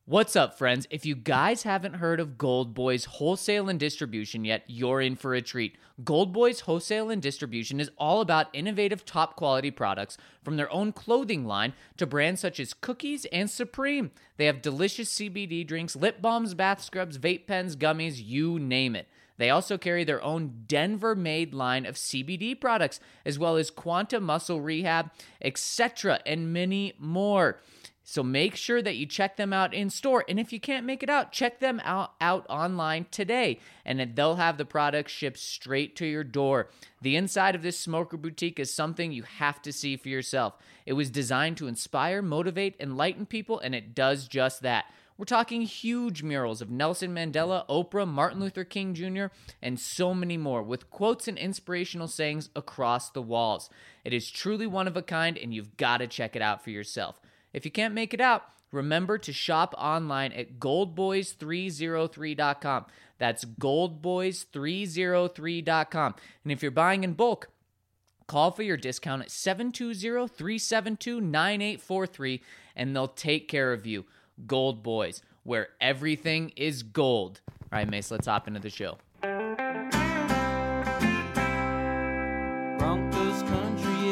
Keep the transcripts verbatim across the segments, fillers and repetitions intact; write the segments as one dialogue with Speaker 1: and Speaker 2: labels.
Speaker 1: What's up, friends? If you guys haven't heard of Gold Boys Wholesale and Distribution yet, you're in for a treat. Gold Boys Wholesale and Distribution is all about innovative, top-quality products from their own clothing line to brands such as Cookies and Supreme. They have delicious C B D drinks, lip balms, bath scrubs, vape pens, gummies, you name it. They also carry their own Denver-made line of C B D products, as well as Quanta Muscle Rehab, et cetera, and many more. So make sure that you check them out in store. And if you can't make it out, check them out, out online today. And then they'll have the products shipped straight to your door. The inside of this smoker boutique is something you have to see for yourself. It was designed to inspire, motivate, enlighten people, and it does just that. We're talking huge murals of Nelson Mandela, Oprah, Martin Luther King Junior, and so many more, with quotes and inspirational sayings across the walls. It is truly one of a kind, and you've got to check it out for yourself. If you can't make it out, remember to shop online at gold boys three oh three dot com. That's gold boys three oh three dot com. And if you're buying in bulk, call for your discount at seven two zero, three seven two, nine eight four three, and they'll take care of you. Gold Boys, where everything is gold. All right, Mace, let's hop into the show.
Speaker 2: Broncos country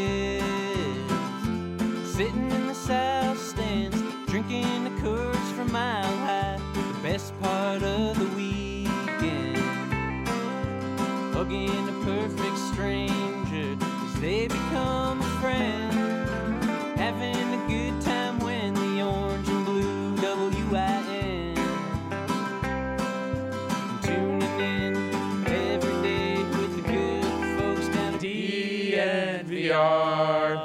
Speaker 2: is sitting in the south stands, drinking the Coors from Mile High, the best part of the weekend, hugging a perfect stranger as they become a friend, having a good time when the orange and blue W I N, tuning in every day with the good folks down at D N V R.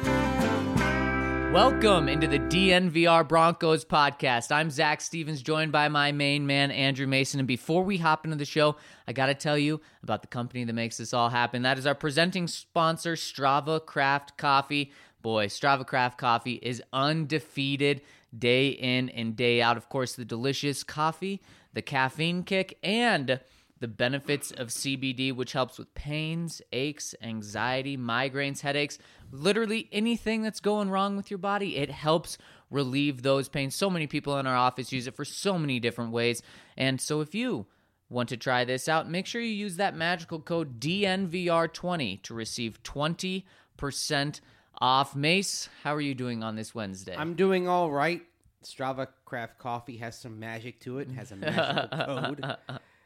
Speaker 1: Welcome into the D N V R Broncos podcast. I'm Zach Stevens, joined by my main man, Andrew Mason. And before we hop into the show, I got to tell you about the company that makes this all happen. That is our presenting sponsor, Strava Craft Coffee. Boy, Strava Craft Coffee is undefeated day in and day out. Of course, the delicious coffee, the caffeine kick, and the benefits of C B D, which helps with pains, aches, anxiety, migraines, headaches, literally anything that's going wrong with your body. It helps relieve those pains. So many people in our office use it for so many different ways. And so if you want to try this out, make sure you use that magical code D N V R twenty to receive twenty percent off. Mace, how are you doing on this Wednesday?
Speaker 3: I'm doing all right. Strava Craft Coffee has some magic to it. It has a magical code.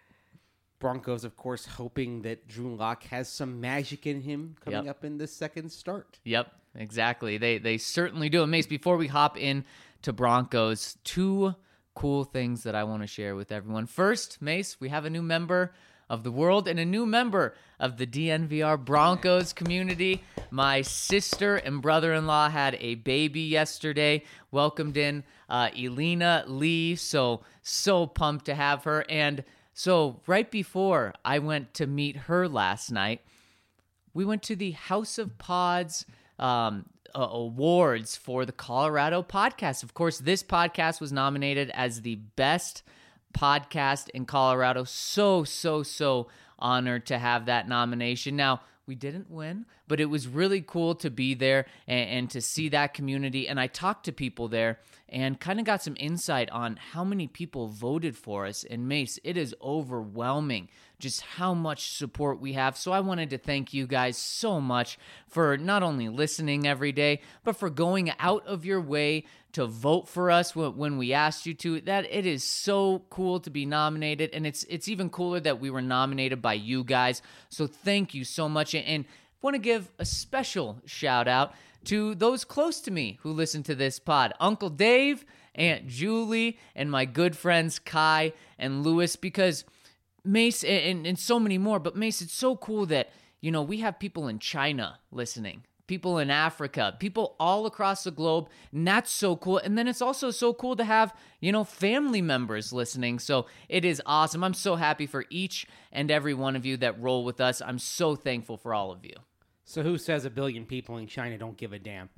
Speaker 3: Broncos, of course, hoping that Drew Lock has some magic in him coming
Speaker 1: Yep.
Speaker 3: up in the second start.
Speaker 1: Yep, exactly. They they certainly do. And Mace, before we hop in to Broncos, two cool things that I want to share with everyone. First, Mace, we have a new member of the world and a new member of the D N V R Broncos community. My sister and brother-in-law had a baby yesterday, welcomed in uh, Elena Lee, so, so pumped to have her. And so right before I went to meet her last night, we went to the House of Pods um, uh, awards for the Colorado podcast. Of course, this podcast was nominated as the best podcast in Colorado. So, so, so honored to have that nomination. Now, we didn't win, but it was really cool to be there and, and to see that community. And I talked to people there and kind of got some insight on how many people voted for us. And Mace, it is overwhelming just how much support we have. So I wanted to thank you guys so much for not only listening every day, but for going out of your way to vote for us when we asked you to. That it is so cool to be nominated, and it's it's even cooler that we were nominated by you guys. So thank you so much, and want to give a special shout out to those close to me who listen to this pod. Uncle Dave, Aunt Julie, and my good friends Kai and Lewis, because Mace and, and so many more. But Mace, it's so cool that, you know, we have people in China listening, people in Africa, people all across the globe, and that's so cool. And then it's also so cool to have, you know, family members listening. So it is awesome. I'm so happy for each and every one of you that roll with us. I'm so thankful for all of you.
Speaker 3: So who says a billion people in China don't give a damn?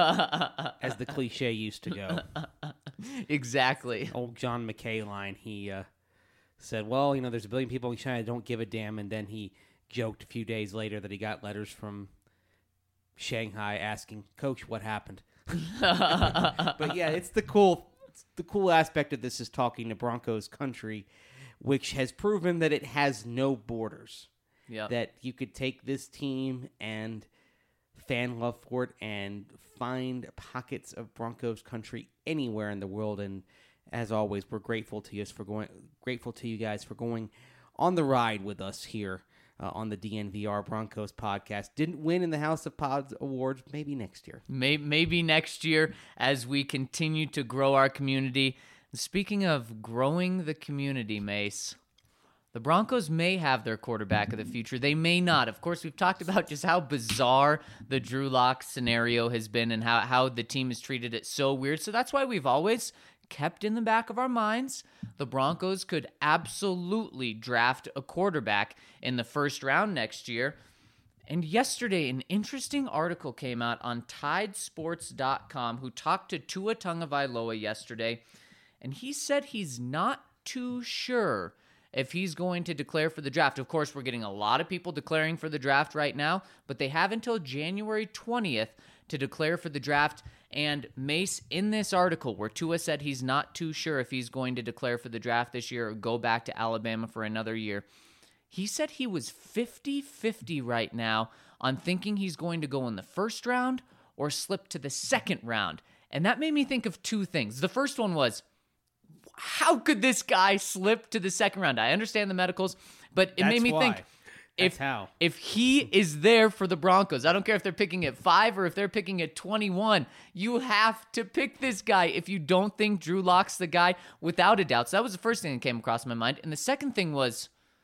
Speaker 3: As the cliche used to go.
Speaker 1: Exactly.
Speaker 3: Old John McKay line, he uh, said, well, you know, there's a billion people in China that don't give a damn, and then he joked a few days later that he got letters from Shanghai asking, Coach, what happened? But yeah, it's the cool the cool aspect of this is talking to Broncos country, which has proven that it has no borders.
Speaker 1: Yeah.
Speaker 3: That you could take this team and fan love for it and find pockets of Broncos country anywhere in the world. And as always, we're grateful to you for going, grateful to you guys for going on the ride with us here uh, on the D N V R Broncos podcast. Didn't win in the House of Pods Awards. Maybe next year.
Speaker 1: Maybe, maybe next year as we continue to grow our community. Speaking of growing the community, Mace, the Broncos may have their quarterback of the future. They may not. Of course, we've talked about just how bizarre the Drew Lock scenario has been and how, how the team has treated it so weird. So that's why we've always kept in the back of our minds the Broncos could absolutely draft a quarterback in the first round next year. And yesterday, an interesting article came out on Tide Sports dot com who talked to Tua Tagovailoa yesterday, and he said he's not too sure if he's going to declare for the draft. Of course, we're getting a lot of people declaring for the draft right now, but they have until January twentieth to declare for the draft. And Mace, in this article where Tua said he's not too sure if he's going to declare for the draft this year or go back to Alabama for another year, he said he was fifty-fifty right now on thinking he's going to go in the first round or slip to the second round. And that made me think of two things. The first one was, how could this guy slip to the second round? I understand the medicals, but it
Speaker 3: That's
Speaker 1: made me
Speaker 3: why.
Speaker 1: think,
Speaker 3: That's
Speaker 1: if
Speaker 3: how.
Speaker 1: if he is there for the Broncos, I don't care if they're picking at five or if they're picking at twenty-one, you have to pick this guy if you don't think Drew Lock's the guy, without a doubt. So that was the first thing that came across my mind. And the second thing was,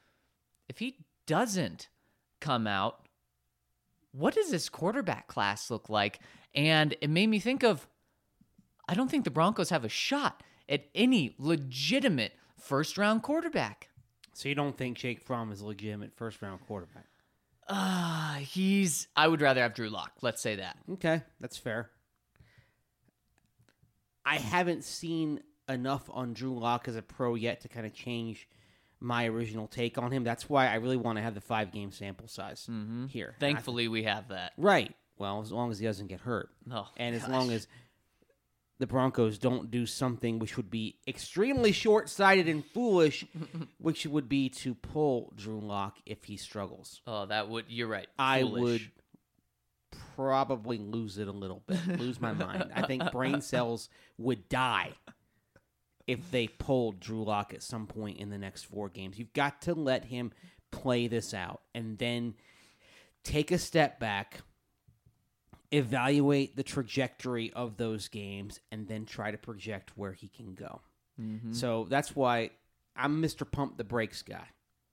Speaker 1: if he doesn't come out, what does this quarterback class look like? And it made me think of, I don't think the Broncos have a shot at any legitimate first-round quarterback.
Speaker 3: So you don't think Jake Fromm is a legitimate first-round quarterback?
Speaker 1: Uh, he's, I would rather have Drew Lock. Let's say that.
Speaker 3: Okay, that's fair. I haven't seen enough on Drew Lock as a pro yet to kind of change my original take on him. That's why I really want to have the five-game sample size
Speaker 1: Mm-hmm.
Speaker 3: here.
Speaker 1: Thankfully, we have that.
Speaker 3: Right. Well, as long as he doesn't get hurt.
Speaker 1: Oh,
Speaker 3: and as
Speaker 1: gosh.
Speaker 3: long as the Broncos don't do something which would be extremely short-sighted and foolish, which would be to pull Drew Lock if he struggles.
Speaker 1: Oh, that would, you're right.
Speaker 3: I
Speaker 1: Foolish.
Speaker 3: would probably lose it a little bit, lose my mind. I think brain cells would die if they pulled Drew Lock at some point in the next four games. You've got to let him play this out and then take a step back, evaluate the trajectory of those games, and then try to project where he can go.
Speaker 1: Mm-hmm.
Speaker 3: So that's why I'm Mister Pump the Brakes guy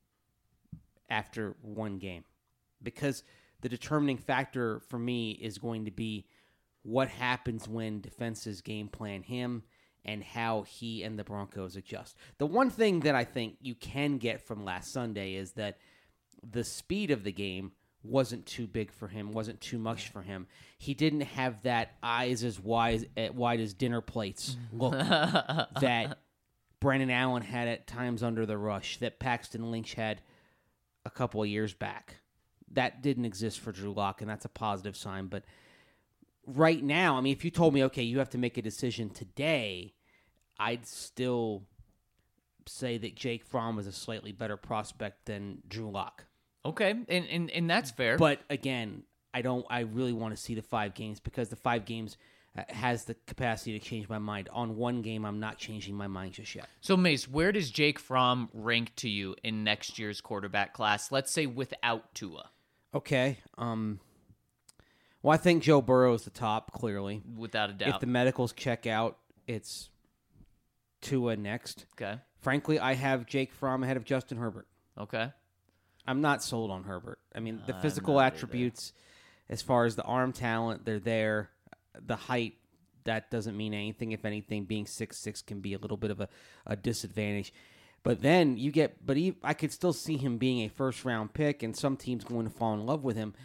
Speaker 3: after one game. Because the determining factor for me is going to be what happens when defenses game plan him and how he and the Broncos adjust. The one thing that I think you can get from last Sunday is that the speed of the game wasn't too big for him, wasn't too much for him. He didn't have that eyes as wide as, wide as dinner plates look that Brandon Allen had at times under the rush, that Paxton Lynch had a couple of years back. That didn't exist for Drew Lock, and that's a positive sign. But right now, I mean, if you told me, okay, you have to make a decision today, I'd still say that Jake Fromm is a slightly better prospect than Drew Lock.
Speaker 1: Okay, and, and and that's fair.
Speaker 3: But again, I don't. I really want to see the five games because the five games uh, has the capacity to change my mind. On one game, I'm not changing my mind just yet.
Speaker 1: So, Mace, where does Jake Fromm rank to you in next year's quarterback class? Let's say without Tua.
Speaker 3: Okay. Um. Well, I think Joe Burrow is the top, clearly.
Speaker 1: Without a doubt.
Speaker 3: If the medicals check out, it's Tua next.
Speaker 1: Okay.
Speaker 3: Frankly, I have Jake Fromm ahead of Justin Herbert.
Speaker 1: Okay.
Speaker 3: I'm not sold on Herbert. I mean, the
Speaker 1: I'm
Speaker 3: physical
Speaker 1: not
Speaker 3: attributes, as far as the arm talent, they're there. The height, that doesn't mean anything. If anything, being six six can be a little bit of a, a disadvantage. But then you get, but he, I could still see him being a first round pick, and some teams going to fall in love with him.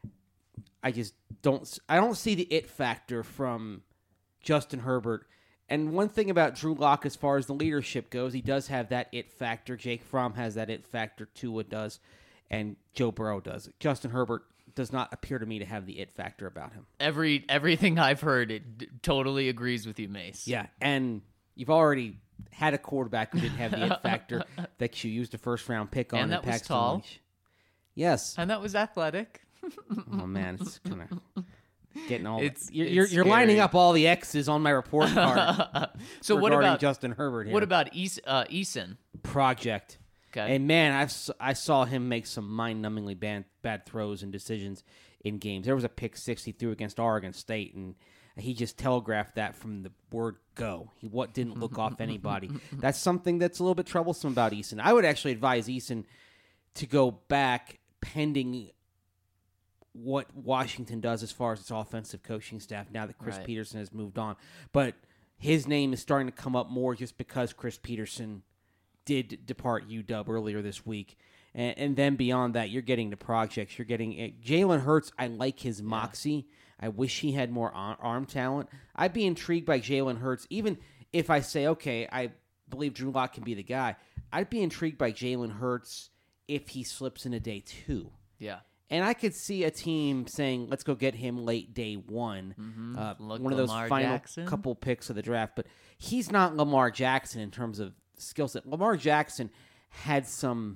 Speaker 3: I just don't, I don't see the it factor from Justin Herbert. And one thing about Drew Lock, as far as the leadership goes, he does have that it factor. Jake Fromm has that it factor. Tua does, and Joe Burrow does. Justin Herbert does not appear to me to have the it factor about him.
Speaker 1: Every everything I've heard, it d- totally agrees with you, Mace.
Speaker 3: Yeah, and you've already had a quarterback who didn't have the it factor that you used a first round pick on.
Speaker 1: And that was
Speaker 3: Paxton
Speaker 1: tall.
Speaker 3: Lynch. Yes.
Speaker 1: And that was athletic.
Speaker 3: Oh man, it's kind of getting all.
Speaker 1: It's-
Speaker 3: you're
Speaker 1: it's
Speaker 3: you're, you're lining
Speaker 1: scary.
Speaker 3: up all the X's on my report card.
Speaker 1: So what
Speaker 3: regarding
Speaker 1: about
Speaker 3: Justin Herbert here?
Speaker 1: what about Eas- uh, Eason?
Speaker 3: Project?
Speaker 1: Okay.
Speaker 3: And man, I've s- I saw him make some mind-numbingly bad bad throws and decisions in games. There was a pick six he threw against Oregon State, and he just telegraphed that from the word go. He what didn't look off anybody. That's something that's a little bit troublesome about Eason. I would actually advise Eason to go back pending what Washington does as far as its offensive coaching staff now that Chris
Speaker 1: Right.
Speaker 3: Peterson has moved on. But his name is starting to come up more just because Chris Peterson did depart U W earlier this week. And, and then beyond that, you're getting the projects. You're getting uh, Jalen Hurts. I like his moxie. I wish he had more arm, arm talent. I'd be intrigued by Jalen Hurts, even if I say, okay, I believe Drew Lock can be the guy. I'd be intrigued by Jalen Hurts if he slips into day two.
Speaker 1: Yeah.
Speaker 3: And I could see a team saying, let's go get him late day one.
Speaker 1: Mm-hmm.
Speaker 3: Uh,
Speaker 1: Look,
Speaker 3: one of those
Speaker 1: Lamar
Speaker 3: final
Speaker 1: Jackson.
Speaker 3: couple picks of the draft. But he's not Lamar Jackson in terms of skill set. Lamar Jackson had some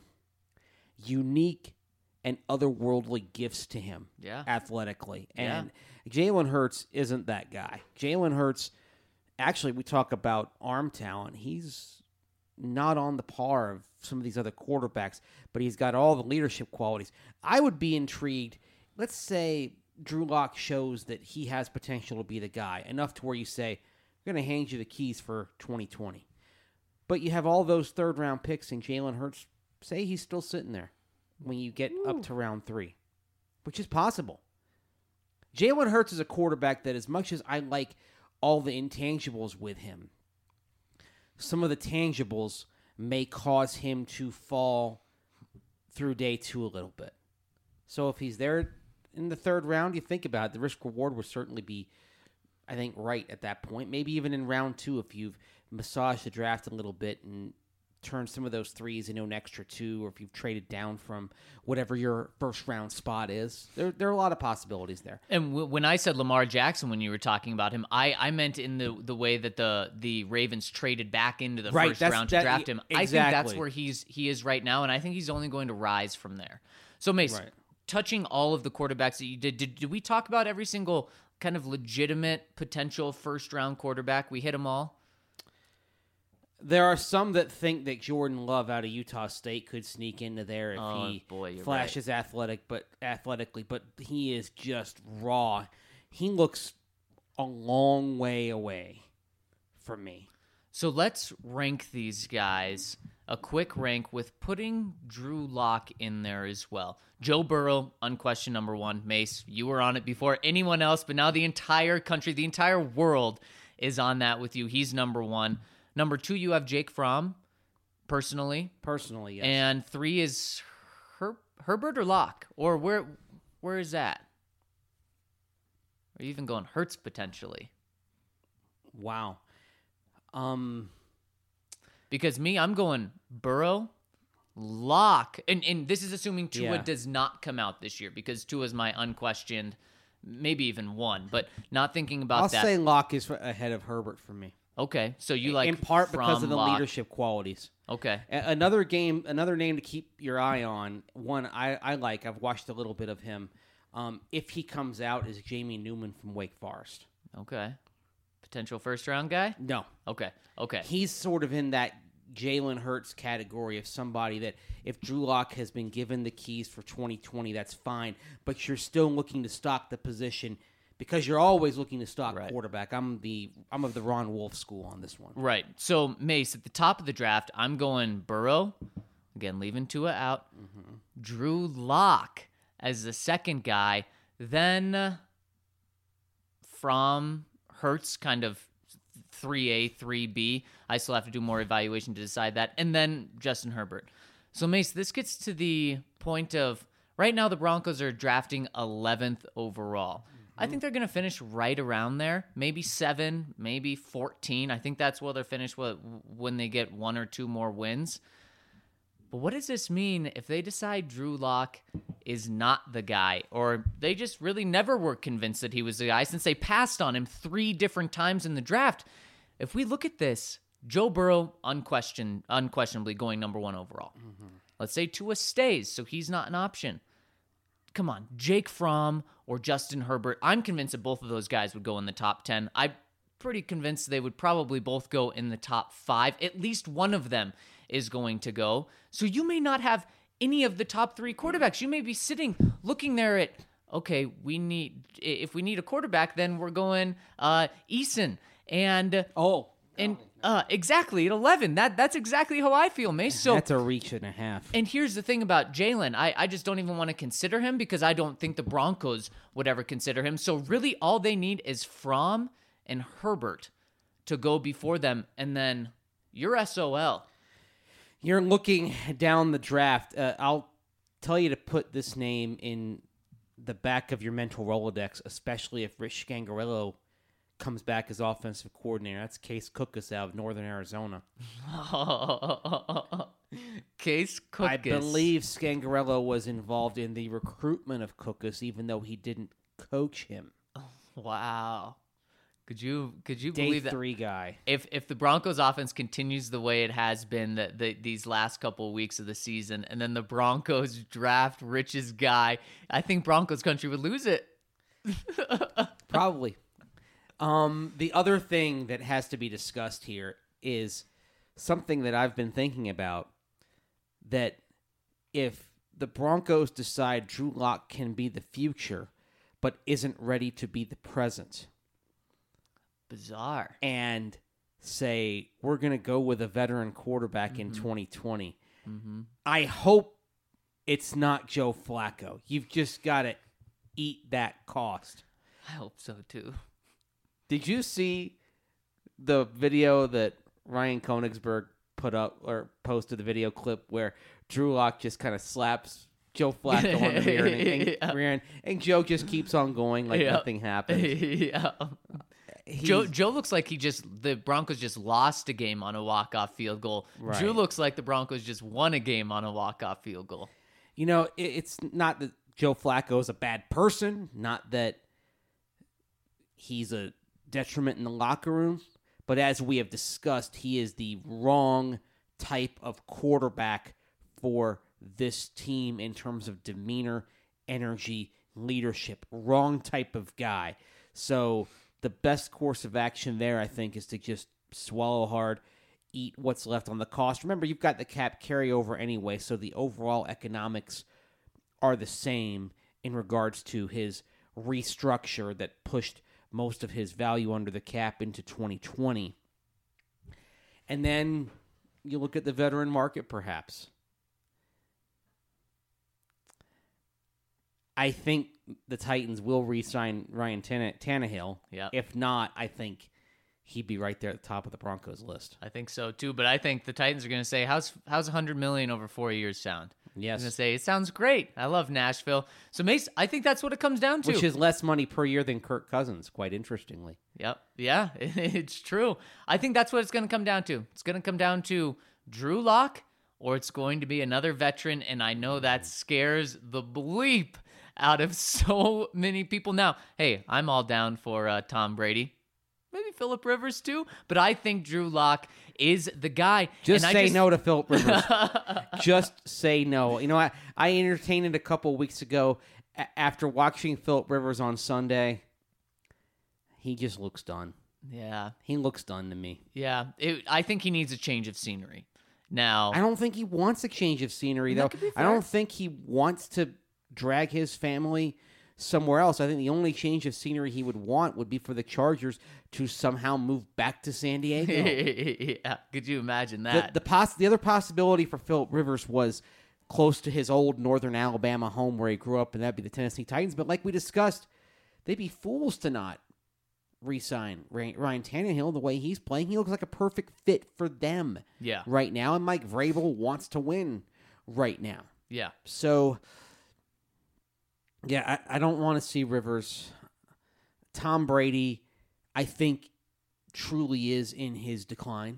Speaker 3: unique and otherworldly gifts to him
Speaker 1: Yeah.
Speaker 3: athletically.
Speaker 1: Yeah.
Speaker 3: And Jalen Hurts isn't that guy. Jalen Hurts, actually, we talk about arm talent. He's not on the par of some of these other quarterbacks, but he's got all the leadership qualities. I would be intrigued. Let's say Drew Lock shows that he has potential to be the guy, enough to where you say, we're going to hand you the keys for twenty twenty. But you have all those third-round picks, and Jalen Hurts, say he's still sitting there when you get Ooh. up to round three, which is possible. Jalen Hurts is a quarterback that, as much as I like all the intangibles with him, some of the tangibles may cause him to fall through day two a little bit. So if he's there in the third round, you think about it, the risk-reward would certainly be, I think, right at that point. Maybe even in round two if you've massaged the draft a little bit and turn some of those threes into an extra two, or if you've traded down from whatever your first round spot is. There, there are a lot of possibilities there.
Speaker 1: And w- when I said Lamar Jackson, when you were talking about him, I, I meant in the the way that the the Ravens traded back into the
Speaker 3: Right,
Speaker 1: first
Speaker 3: that's-
Speaker 1: round to
Speaker 3: that-
Speaker 1: draft him. I think that's
Speaker 3: exactly.
Speaker 1: where he's he is right now, and I think he's only going to rise from there. So Mace,
Speaker 3: Right.
Speaker 1: touching all of the quarterbacks that you did, did, did we talk about every single kind of legitimate potential first round quarterback? We hit them all.
Speaker 3: There are some that think that Jordan Love out of Utah State could sneak into there if
Speaker 1: Oh,
Speaker 3: he
Speaker 1: boy, you're
Speaker 3: flashes athletic, but athletically, but he is just raw. He looks a long way away from me.
Speaker 1: So let's rank these guys. A quick rank with putting Drew Lock in there as well. Joe Burrow, unquestioned number one. Mace, you were on it before anyone else, but now the entire country, the entire world is on that with you. He's number one. Number two, you have Jake Fromm, personally.
Speaker 3: Personally, yes.
Speaker 1: And three is Her- Herbert or Locke? Or where where is that? Or even going Hurts potentially?
Speaker 3: Wow. Um,
Speaker 1: Because me, I'm going Burrow, Locke, and, and this is assuming Tua
Speaker 3: Yeah.
Speaker 1: does not come out this year, because Tua is my unquestioned, maybe even one, but not thinking about
Speaker 3: I'll
Speaker 1: that.
Speaker 3: say Locke is ahead of Herbert for me.
Speaker 1: Okay, so you like
Speaker 3: in part because
Speaker 1: from
Speaker 3: of the
Speaker 1: Locke.
Speaker 3: leadership qualities.
Speaker 1: Okay,
Speaker 3: A- Another game, another name to keep your eye on. One I, I like. I've watched a little bit of him. Um, if he comes out, is Jamie Newman from Wake Forest.
Speaker 1: okay. Potential first round guy?
Speaker 3: No,
Speaker 1: Okay, okay.
Speaker 3: he's sort of in that Jalen Hurts category of somebody that if Drew Lock has been given the keys for twenty twenty, that's fine. But you're still looking to stock the position because you're always looking to stock
Speaker 1: Right.
Speaker 3: quarterback. I'm the I'm of the Ron Wolf school on this one.
Speaker 1: Right. So, Mace, at the top of the draft, I'm going Burrow. Again, leaving Tua out.
Speaker 3: Mm-hmm.
Speaker 1: Drew Lock as the second guy. Then uh, from Hurts, kind of three A, three B. I still have to do more evaluation to decide that. And then Justin Herbert. So, Mace, this gets to the point of right now the Broncos are drafting eleventh overall. I think they're going to finish right around there, maybe seven, maybe fourteen. I think that's where they'll finish when they get one or two more wins. But what does this mean if they decide Drew Lock is not the guy, or they just really never were convinced that he was the guy since they passed on him three different times in the draft? If we look at this, Joe Burrow, unquestioned, unquestionably going number one overall.
Speaker 3: Mm-hmm.
Speaker 1: Let's say Tua stays, so he's not an option. Come on, Jake Fromm or Justin Herbert. I'm convinced that both of those guys would go in the top ten. I'm pretty convinced they would probably both go in the top five. At least one of them is going to go. So you may not have any of the top three quarterbacks. You may be sitting looking there at, okay, we need, if we need a quarterback, then we're going uh, Eason. And,
Speaker 3: Oh,
Speaker 1: and uh, exactly, at eleven. That That's exactly how I feel, Mace. So
Speaker 3: that's a reach and a half.
Speaker 1: And here's the thing about Jalen. I, I just don't even want to consider him because I don't think the Broncos would ever consider him. So really all they need is Fromm and Herbert to go before them, and then you're S O L.
Speaker 3: You're looking down the draft. Uh, I'll tell you to put this name in the back of your mental Rolodex, especially if Rich Scangarello comes back as offensive coordinator. That's Case Cookus out of Northern Arizona.
Speaker 1: Case Cookus.
Speaker 3: I believe Scangarello was involved in the recruitment of Cookus, even though he didn't coach him.
Speaker 1: Wow. Could you could you
Speaker 3: Day
Speaker 1: believe that?
Speaker 3: three guy.
Speaker 1: If if the Broncos offense continues the way it has been the, the, these last couple of weeks of the season, and then the Broncos draft Rich's guy, I think Broncos country would lose it.
Speaker 3: Probably. Um, the other thing that has to be discussed here is something that I've been thinking about, that if the Broncos decide Drew Lock can be the future, but isn't ready to be the present,
Speaker 1: bizarre,
Speaker 3: and say, we're going to go with a veteran quarterback
Speaker 1: mm-hmm.
Speaker 3: in twenty twenty,
Speaker 1: mm-hmm.
Speaker 3: I hope it's not Joe Flacco. You've just got to eat that cost.
Speaker 1: I hope so, too.
Speaker 3: Did you see the video that Ryan Koenigsberg put up or posted, the video clip where Drew Lock just kind of slaps Joe Flacco on the rear end, and,
Speaker 1: yeah.
Speaker 3: rear end, and Joe just keeps on going like
Speaker 1: yeah.
Speaker 3: nothing happened.
Speaker 1: yeah. Joe Joe looks like he just the Broncos just lost a game on a walk-off field goal.
Speaker 3: Right.
Speaker 1: Drew looks like the Broncos just won a game on a walk-off field goal.
Speaker 3: You know, it, it's not that Joe Flacco is a bad person, not that he's a detriment in the locker room, but as we have discussed, he is the wrong type of quarterback for this team in terms of demeanor, energy, leadership. Wrong type of guy. So the best course of action there, I think, is to just swallow hard, eat what's left on the cost. Remember, you've got the cap carryover anyway, so the overall economics are the same in regards to his restructure that pushed most of his value under the cap into twenty twenty. And then you look at the veteran market, perhaps. I think the Titans will re-sign Ryan Tanne- Tannehill.
Speaker 1: Yep.
Speaker 3: If not, I think he'd be right there at the top of the Broncos list.
Speaker 1: I think so too, but I think the Titans are going to say, "How's how's one hundred million over four years sound?"
Speaker 3: Yes.
Speaker 1: They're going to say, "It sounds great. I love Nashville." So Mace, I think that's what it comes down to.
Speaker 3: Which is less money per year than Kirk Cousins, quite interestingly.
Speaker 1: Yep. Yeah, it's true. I think that's what it's going to come down to. It's going to come down to Drew Lock, or it's going to be another veteran, and I know that scares the bleep out of so many people. Now, hey, I'm all down for uh, Tom Brady. Maybe Phillip Rivers too, but I think Drew Lock is the guy.
Speaker 3: Just
Speaker 1: and
Speaker 3: say
Speaker 1: I just...
Speaker 3: no to Phillip Rivers. Just say no. You know, I, I entertained it a couple weeks ago a- after watching Phillip Rivers on Sunday. He just looks done.
Speaker 1: Yeah.
Speaker 3: He looks done to me.
Speaker 1: Yeah. It, I think he needs a change of scenery. Now,
Speaker 3: I don't think he wants a change of scenery, though.
Speaker 1: could be
Speaker 3: I
Speaker 1: fair.
Speaker 3: don't think he wants to drag his family somewhere else. I think the only change of scenery he would want would be for the Chargers to somehow move back to San Diego.
Speaker 1: yeah. Could you imagine
Speaker 3: the
Speaker 1: that?
Speaker 3: the, poss- the other possibility for Phillip Rivers was close to his old Northern Alabama home where he grew up, and that'd be the Tennessee Titans. But like we discussed, they'd be fools to not re-sign Ryan Tannehill the way he's playing. He looks like a perfect fit for them
Speaker 1: Yeah.
Speaker 3: right now, and Mike Vrabel wants to win right now.
Speaker 1: Yeah.
Speaker 3: So, yeah, I, I don't want to see Rivers. Tom Brady, I think, truly is in his decline.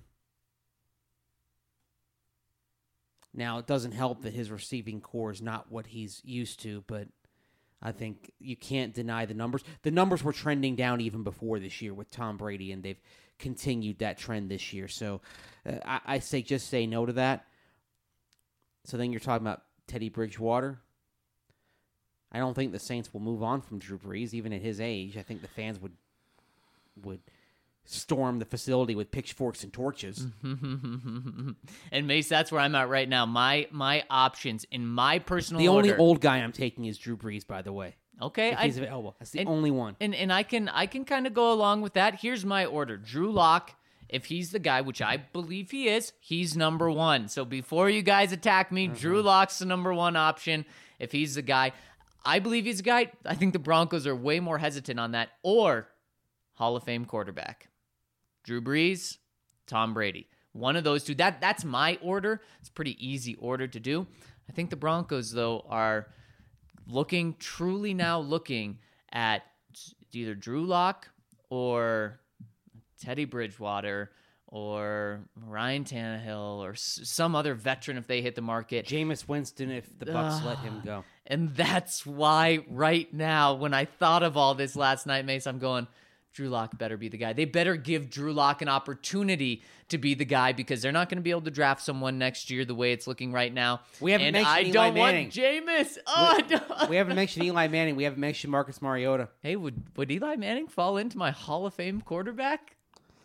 Speaker 3: Now, it doesn't help that his receiving core is not what he's used to, but I think you can't deny the numbers. The numbers were trending down even before this year with Tom Brady, and they've continued that trend this year. So uh, I, I say just say no to that. So then you're talking about Teddy Bridgewater. I don't think the Saints will move on from Drew Brees, even at his age. I think the fans would would storm the facility with pitchforks and torches.
Speaker 1: And Mace, that's where I'm at right now. My my options in my personal
Speaker 3: The
Speaker 1: order.
Speaker 3: only old guy I'm taking is Drew Brees, by the way.
Speaker 1: Okay,
Speaker 3: If
Speaker 1: I,
Speaker 3: he's available. That's the
Speaker 1: and-
Speaker 3: only one.
Speaker 1: and and I can I can kind of go along with that. Here's my order: Drew Lock. If he's the guy, which I believe he is, he's number one. So before you guys attack me,
Speaker 3: Mm-hmm.
Speaker 1: Drew Lock's the number one option. If he's the guy, I believe he's the guy. I think the Broncos are way more hesitant on that. Or Hall of Fame quarterback. Drew Brees, Tom Brady. One of those two. That That's my order. It's a pretty easy order to do. I think the Broncos, though, are looking, truly now looking at either Drew Lock or Teddy Bridgewater or Ryan Tannehill or s- some other veteran if they hit the market.
Speaker 3: Jameis Winston, if the Bucs let him go.
Speaker 1: And that's why right now, when I thought of all this last night, Mace, I'm going, Drew Lock better be the guy. They better give Drew Lock an opportunity to be the guy because they're not going to be able to draft someone next year the way it's looking right now.
Speaker 3: We haven't
Speaker 1: and
Speaker 3: mentioned
Speaker 1: I
Speaker 3: Eli
Speaker 1: don't
Speaker 3: Manning.
Speaker 1: want Jameis. Oh,
Speaker 3: We-
Speaker 1: no.
Speaker 3: We haven't mentioned Eli Manning. We haven't mentioned Marcus Mariota.
Speaker 1: Hey, would would Eli Manning fall into my Hall of Fame quarterback?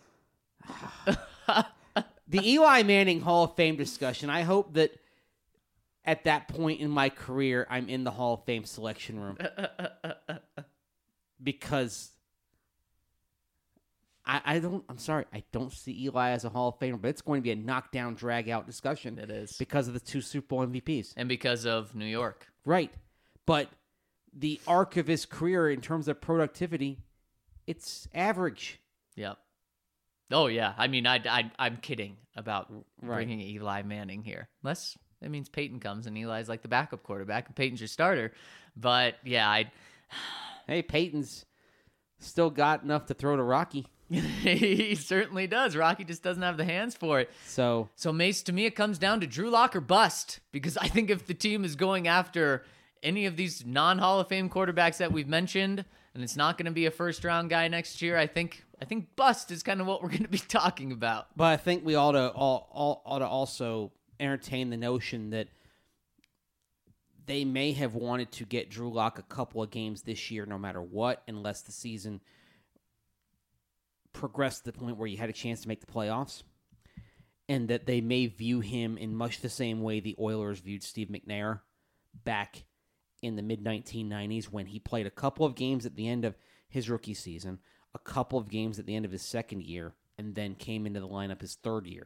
Speaker 3: The Eli Manning Hall of Fame discussion, I hope that at that point in my career, I'm in the Hall of Fame selection room. Because I, I don't, I'm sorry, I don't see Eli as a Hall of Famer, but it's going to be a knockdown, drag-out discussion.
Speaker 1: It is.
Speaker 3: Because of the two Super Bowl M V Ps.
Speaker 1: And because of New York.
Speaker 3: Right. But the arc of his career in terms of productivity, it's average.
Speaker 1: Yep. Oh, yeah. I mean, I, I, I'm kidding about
Speaker 3: Right.
Speaker 1: bringing Eli Manning here. Unless that means Peyton comes and Eli's like the backup quarterback and Peyton's your starter. But, yeah, I...
Speaker 3: Hey, Peyton's still got enough to throw to Rocky.
Speaker 1: he certainly does. Rocky just doesn't have the hands for it.
Speaker 3: So,
Speaker 1: So, Mace, to me, it comes down to Drew Lock or bust. Because I think if the team is going after any of these non-Hall of Fame quarterbacks that we've mentioned, and it's not going to be a first-round guy next year, I think I think bust is kind of what we're going to be talking about.
Speaker 3: but I think we ought to all, all ought to also entertain the notion that they may have wanted to get Drew Lock a couple of games this year, no matter what, unless the season progressed to the point where you had a chance to make the playoffs, and that they may view him in much the same way the Oilers viewed Steve McNair back in the mid nineteen nineties when he played a couple of games at the end of his rookie season, a couple of games at the end of his second year, and then came into the lineup his third year.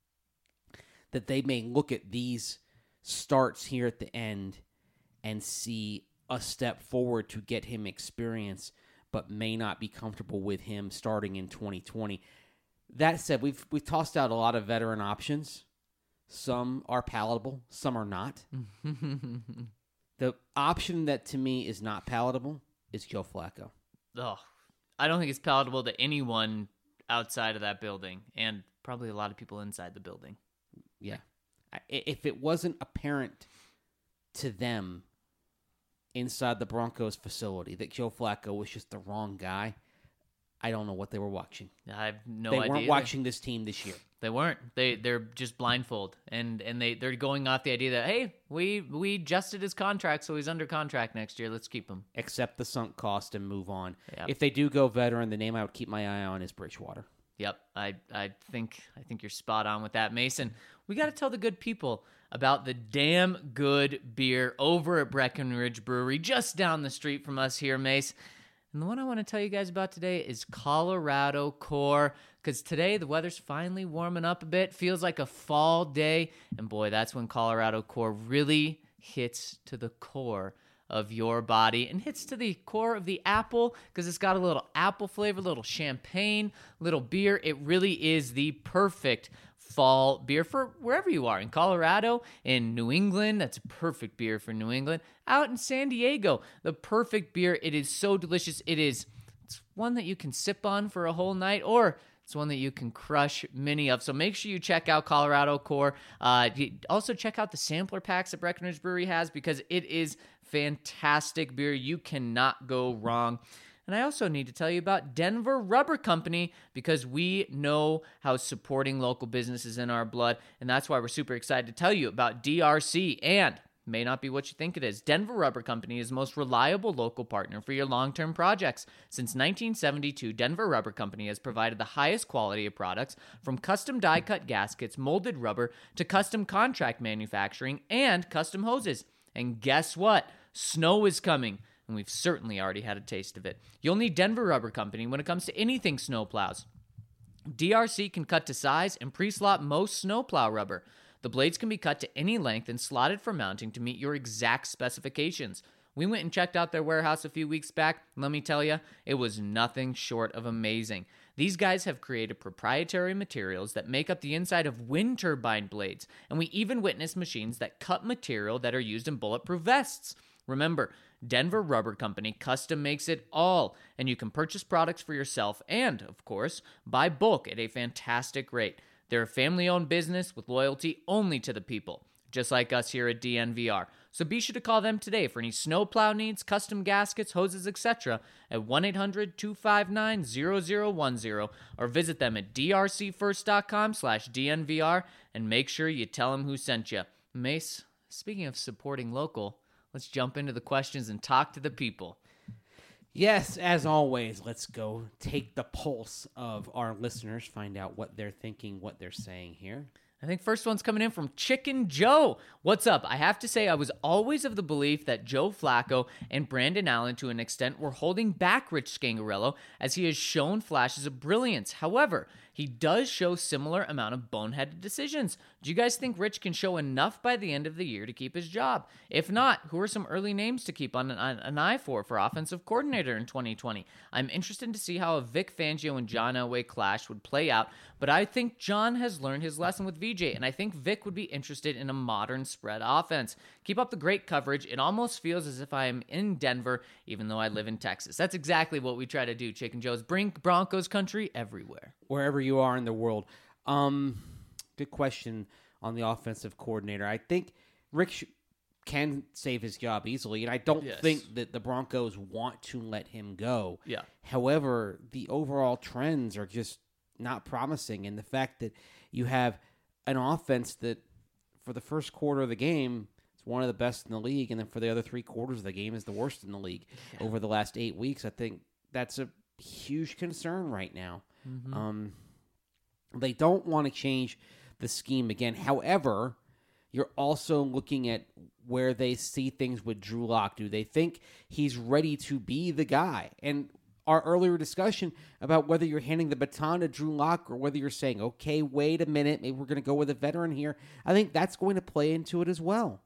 Speaker 3: That they may look at these starts here at the end and see a step forward to get him experience, but may not be comfortable with him starting in twenty twenty. That said, we've we've tossed out a lot of veteran options. Some are palatable, some are not. The option that to me is not palatable is Joe Flacco.
Speaker 1: Oh, I don't think it's palatable to anyone outside of that building, and probably a lot of people inside the building.
Speaker 3: Yeah. I- If it wasn't apparent to them inside the Broncos facility that Joe Flacco was just the wrong guy, I don't know what they were watching.
Speaker 1: I have no
Speaker 3: they
Speaker 1: idea.
Speaker 3: weren't watching this team this year.
Speaker 1: They weren't. They they're just blindfold, and and they they're going off the idea that hey, we we adjusted his contract, so he's under contract next year. Let's keep him.
Speaker 3: Accept the sunk cost and move on.
Speaker 1: Yep.
Speaker 3: If they do go veteran, the name I would keep my eye on is Bridgewater.
Speaker 1: Yep, I I think I think you're spot on with that, Mason. We got to tell the good people about the damn good beer over at Breckenridge Brewery, just down the street from us here, Mace. And the one I want to tell you guys about today is Colorado Core, because today the weather's finally warming up a bit. Feels like a fall day, and boy, that's when Colorado Core really hits to the core of your body and hits to the core of the apple, because it's got a little apple flavor, little champagne, little beer. It really is the perfect fall beer for wherever you are. In Colorado, in New England, that's a perfect beer for New England. Out in San Diego, the perfect beer. It is so delicious. It is it's one that you can sip on for a whole night, or it's one that you can crush many of. So make sure you check out Colorado Core. Uh, also check out the sampler packs that Breckenridge Brewery has, because it is fantastic beer. You cannot go wrong. And I also need to tell you about Denver Rubber Company, because we know how supporting local business is in our blood, and that's why we're super excited to tell you about D R C. And may not be what you think it is. Denver Rubber Company is the most reliable local partner for your long-term projects. Since nineteen seventy-two, Denver Rubber Company has provided the highest quality of products, from custom die-cut gaskets, molded rubber, to custom contract manufacturing and custom hoses. And guess what? Snow is coming, and we've certainly already had a taste of it. You'll need Denver Rubber Company when it comes to anything snowplows. D R C can cut to size and pre-slot most snowplow rubber. The blades can be cut to any length and slotted for mounting to meet your exact specifications. We went and checked out their warehouse a few weeks back, and let me tell you, it was nothing short of amazing. These guys have created proprietary materials that make up the inside of wind turbine blades, and we even witnessed machines that cut material that are used in bulletproof vests. Remember, Denver Rubber Company custom makes it all, and you can purchase products for yourself and, of course, buy bulk at a fantastic rate. They're a family-owned business with loyalty only to the people, just like us here at D N V R. So be sure to call them today for any snowplow needs, custom gaskets, hoses, et cetera at one eight hundred two five nine zero zero one zero, or visit them at d r c first dot com slash D N V R and make sure you tell them who sent you. Mace, speaking of supporting local, let's jump into the questions and talk to the people.
Speaker 3: Yes, as always, let's go take the pulse of our listeners, find out what they're thinking, what they're saying here.
Speaker 1: I think first one's coming in from Chicken Joe. What's up? I have to say, I was always of the belief that Joe Flacco and Brandon Allen, to an extent, were holding back Rich Scangarello, as he has shown flashes of brilliance. However, he does show similar amount of boneheaded decisions. Do you guys think Rich can show enough by the end of the year to keep his job? If not, who are some early names to keep on an, an eye for for offensive coordinator in twenty twenty? I'm interested to see how a Vic Fangio and John Elway clash would play out, but I think John has learned his lesson with V J, and I think Vic would be interested in a modern spread offense. Keep up the great coverage. It almost feels as if I am in Denver, even though I live in Texas. That's exactly what we try to do, Chicken Joe's. Bring Broncos country everywhere.
Speaker 3: Wherever you are in the world. Um, good question on the offensive coordinator. I think Rick sh- can save his job easily, and I don't
Speaker 1: Yes.
Speaker 3: think that the Broncos want to let him go.
Speaker 1: Yeah.
Speaker 3: However, the overall trends are just not promising, and the fact that you have an offense that for the first quarter of the game is one of the best in the league, and then for the other three quarters of the game is the worst in the league yeah. over the last eight weeks, I think that's a huge concern right now. Mm-hmm. Um, they don't want to change the scheme again. However, you're also looking at where they see things with Drew Lock. Do they think he's ready to be the guy? And our earlier discussion about whether you're handing the baton to Drew Lock or whether you're saying, okay, wait a minute, maybe we're going to go with a veteran here, I think that's going to play into it as well.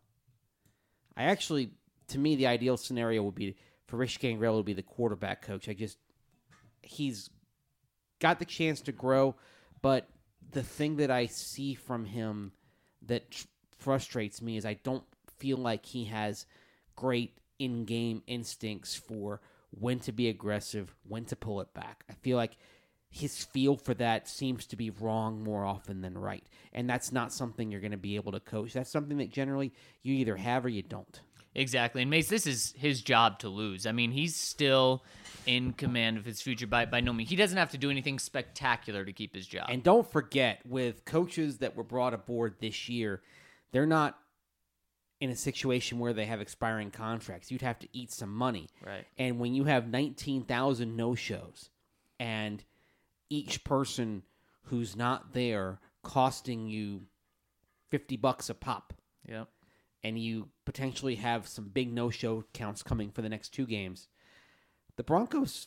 Speaker 3: I actually, to me, the ideal scenario would be for Rich Scangarello to be the quarterback coach. I just, he's got the chance to grow, but the thing that I see from him that tr- frustrates me is I don't feel like he has great in-game instincts for when to be aggressive, when to pull it back. I feel like his feel for that seems to be wrong more often than right. And that's not something you're going to be able to coach. That's something that generally you either have or you don't.
Speaker 1: Exactly. And Mace, this is his job to lose. I mean, he's still in command of his future by, by no means. He doesn't have to do anything spectacular to keep his job.
Speaker 3: And don't forget, with coaches that were brought aboard this year, they're not in a situation where they have expiring contracts. You'd have to eat some money.
Speaker 1: Right.
Speaker 3: And when you have nineteen thousand no-shows and each person who's not there costing you fifty bucks a pop.
Speaker 1: Yep.
Speaker 3: And you potentially have some big no-show counts coming for the next two games, the Broncos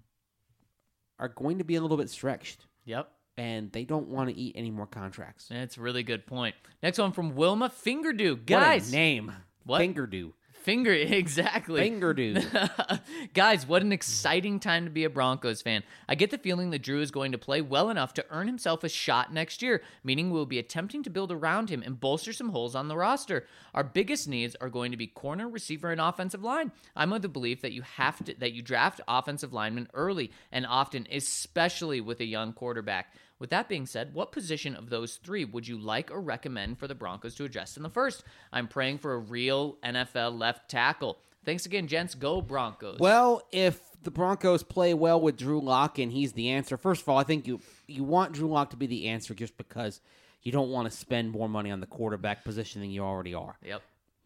Speaker 3: are going to be a little bit stretched.
Speaker 1: Yep.
Speaker 3: And they don't want to eat any more contracts.
Speaker 1: That's a really good point. Next one from Wilma Fingerdew. Guys.
Speaker 3: What a name.
Speaker 1: What?
Speaker 3: Fingerdew.
Speaker 1: Finger, exactly.
Speaker 3: Fingerdew.
Speaker 1: Guys, what an exciting time to be a Broncos fan. I get the feeling that Drew is going to play well enough to earn himself a shot next year, meaning we'll be attempting to build around him and bolster some holes on the roster. Our biggest needs are going to be corner, receiver, and offensive line. I'm of the belief that you have to that you draft offensive linemen early and often, especially with a young quarterback. With that being said, what position of those three would you like or recommend for the Broncos to address in the first? I'm praying for a real N F L left tackle. Thanks again, gents. Go Broncos.
Speaker 3: Well, if the Broncos play well with Drew Lock and he's the answer, first of all, I think you you want Drew Lock to be the answer just because you don't want to spend more money on the quarterback position than you already are.
Speaker 1: Yep.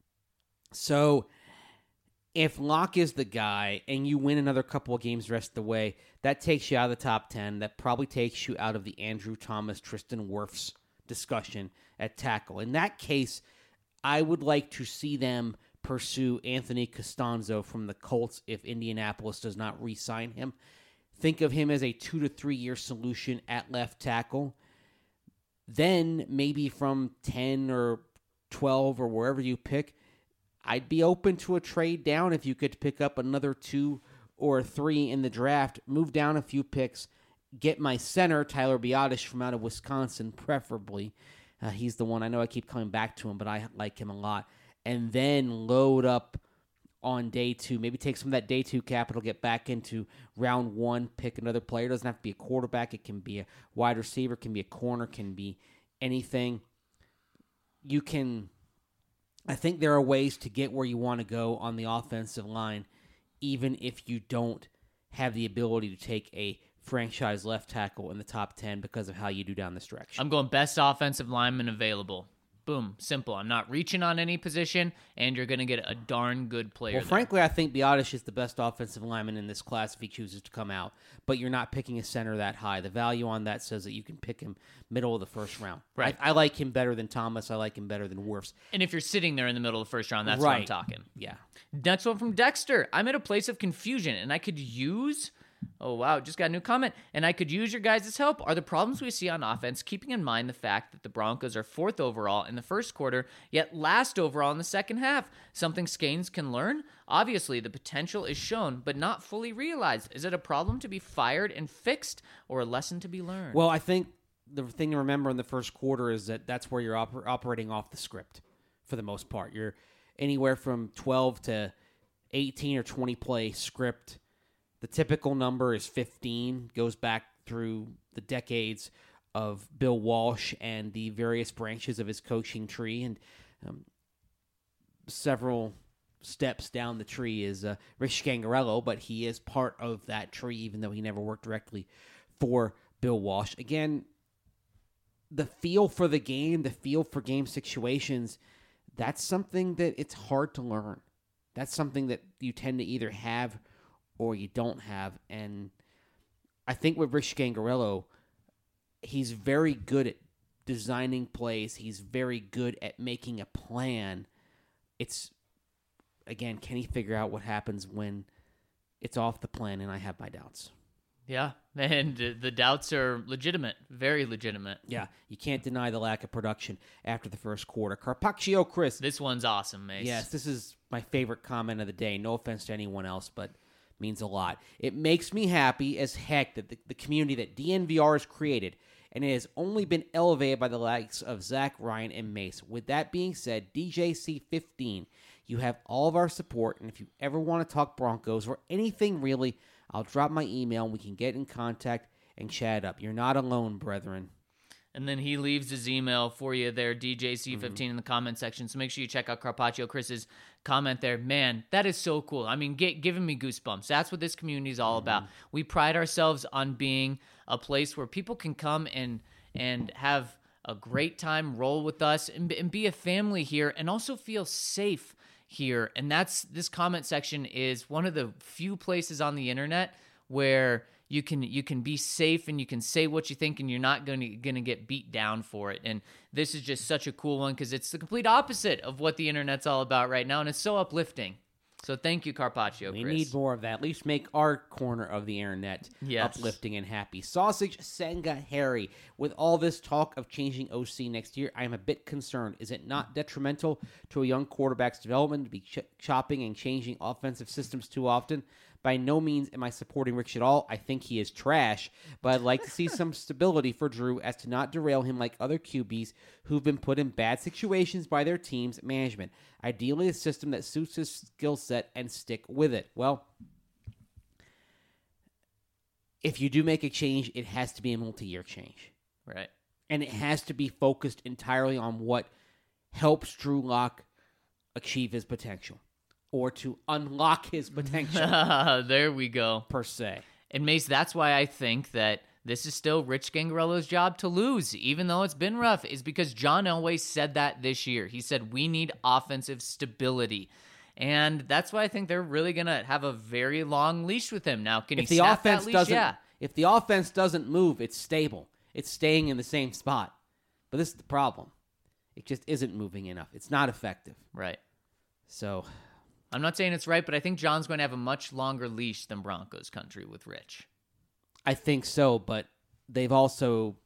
Speaker 3: So if Locke is the guy and you win another couple of games the rest of the way, that takes you out of the top ten. That probably takes you out of the Andrew Thomas, Tristan Wirfs discussion at tackle. In that case, I would like to see them pursue Anthony Costanzo from the Colts if Indianapolis does not re-sign him. Think of him as a two to three year solution at left tackle. Then maybe from ten or twelve or wherever you pick, I'd be open to a trade down if you could pick up another two or three in the draft, move down a few picks, get my center, Tyler Biotish, from out of Wisconsin, preferably. Uh, he's the one. I know I keep coming back to him, but I like him a lot. And then load up on day two. Maybe take some of that day two capital, get back into round one, pick another player. It doesn't have to be a quarterback. It can be a wide receiver, can be a corner, can be anything. You can... I think there are ways to get where you want to go on the offensive line, even if you don't have the ability to take a franchise left tackle in the top ten because of how you do down the stretch.
Speaker 1: I'm going best offensive lineman available. Boom. Simple. I'm not reaching on any position, and you're going to get a darn good player.
Speaker 3: Well,
Speaker 1: there.
Speaker 3: frankly, I think Biotish is the best offensive lineman in this class if he chooses to come out, but you're not picking a center that high. The value on that says that you can pick him middle of the first round.
Speaker 1: Right.
Speaker 3: I, I like him better than Thomas. I like him better than Wirfs.
Speaker 1: And if you're sitting there in the middle of the first round, that's
Speaker 3: right.
Speaker 1: what I'm talking.
Speaker 3: Yeah.
Speaker 1: Next one from Dexter. I'm at a place of confusion, and I could use... Oh, wow. Just got a new comment. And I could use your guys' help. Are the problems we see on offense, keeping in mind the fact that the Broncos are fourth overall in the first quarter, yet last overall in the second half? Something Scanes can learn? Obviously, the potential is shown, but not fully realized. Is it a problem to be fired and fixed, or a lesson to be learned?
Speaker 3: Well, I think the thing to remember in the first quarter is that that's where you're oper- operating off the script for the most part. You're anywhere from twelve to eighteen or twenty play script. The typical number is fifteen, goes back through the decades of Bill Walsh and the various branches of his coaching tree. And um, several steps down the tree is uh, Rich Scangarello, but he is part of that tree, even though he never worked directly for Bill Walsh. Again, the feel for the game, the feel for game situations, that's something that it's hard to learn. That's something that you tend to either have or you don't have. And I think with Rich Scangarello, he's very good at designing plays. He's very good at making a plan. It's, again, can he figure out what happens when it's off the plan? And I have my doubts.
Speaker 1: Yeah, and the doubts are legitimate, very legitimate.
Speaker 3: Yeah, you can't deny the lack of production after the first quarter. Carpaccio Chris.
Speaker 1: This one's awesome, Mace.
Speaker 3: Yes, this is my favorite comment of the day. No offense to anyone else, but means a lot. It makes me happy as heck that the, the community that D N V R has created, and it has only been elevated by the likes of Zach, Ryan, and Mace. With that being said, D J C fifteen, you have all of our support, and if you ever want to talk Broncos or anything really, I'll drop my email and we can get in contact and chat up. You're not alone, brethren.
Speaker 1: And then he leaves his email for you there, D J C fifteen, mm-hmm. in the comment section. So make sure you check out Carpaccio Chris's comment there. Man, that is so cool. I mean, get, giving me goosebumps. That's what this community is all mm-hmm. about. We pride ourselves on being a place where people can come and and have a great time, roll with us, and, and be a family here, and also feel safe here. And that's this comment section is one of the few places on the internet where you can you can be safe and you can say what you think and you're not going to going to get beat down for it. And this is just such a cool one because it's the complete opposite of what the internet's all about right now, and it's so uplifting. So thank you, Carpaccio,
Speaker 3: We
Speaker 1: Chris.
Speaker 3: need more of that. At least make our corner of the internet
Speaker 1: yes.
Speaker 3: uplifting and happy. Sausage Senga Harry. With all this talk of changing O C next year, I am a bit concerned. Is it not detrimental to a young quarterback's development to be ch- chopping and changing offensive systems too often? By no means am I supporting Rich at all. I think he is trash, but I'd like to see some stability for Drew as to not derail him like other Q Bs who've been put in bad situations by their team's management. Ideally, a system that suits his skill set and stick with it. Well, if you do make a change, it has to be a multi-year change.
Speaker 1: Right.
Speaker 3: And it has to be focused entirely on what helps Drew Lock achieve his potential. or to unlock his potential,
Speaker 1: There we go.
Speaker 3: per se.
Speaker 1: And Mace, that's why I think that this is still Rich Gangarello's job to lose, even though it's been rough, is because John Elway said that this year. He said, we need offensive stability. And that's why I think they're really going to have a very long leash with him. Now, can
Speaker 3: If
Speaker 1: he
Speaker 3: the
Speaker 1: snap
Speaker 3: offense
Speaker 1: that leash?
Speaker 3: doesn't,
Speaker 1: Yeah.
Speaker 3: if the offense doesn't move, it's stable. It's staying in the same spot. But this is the problem. It just isn't moving enough. It's not effective.
Speaker 1: Right.
Speaker 3: So
Speaker 1: I'm not saying it's right, but I think John's going to have a much longer leash than Broncos country with Rich.
Speaker 3: I think so, but they've also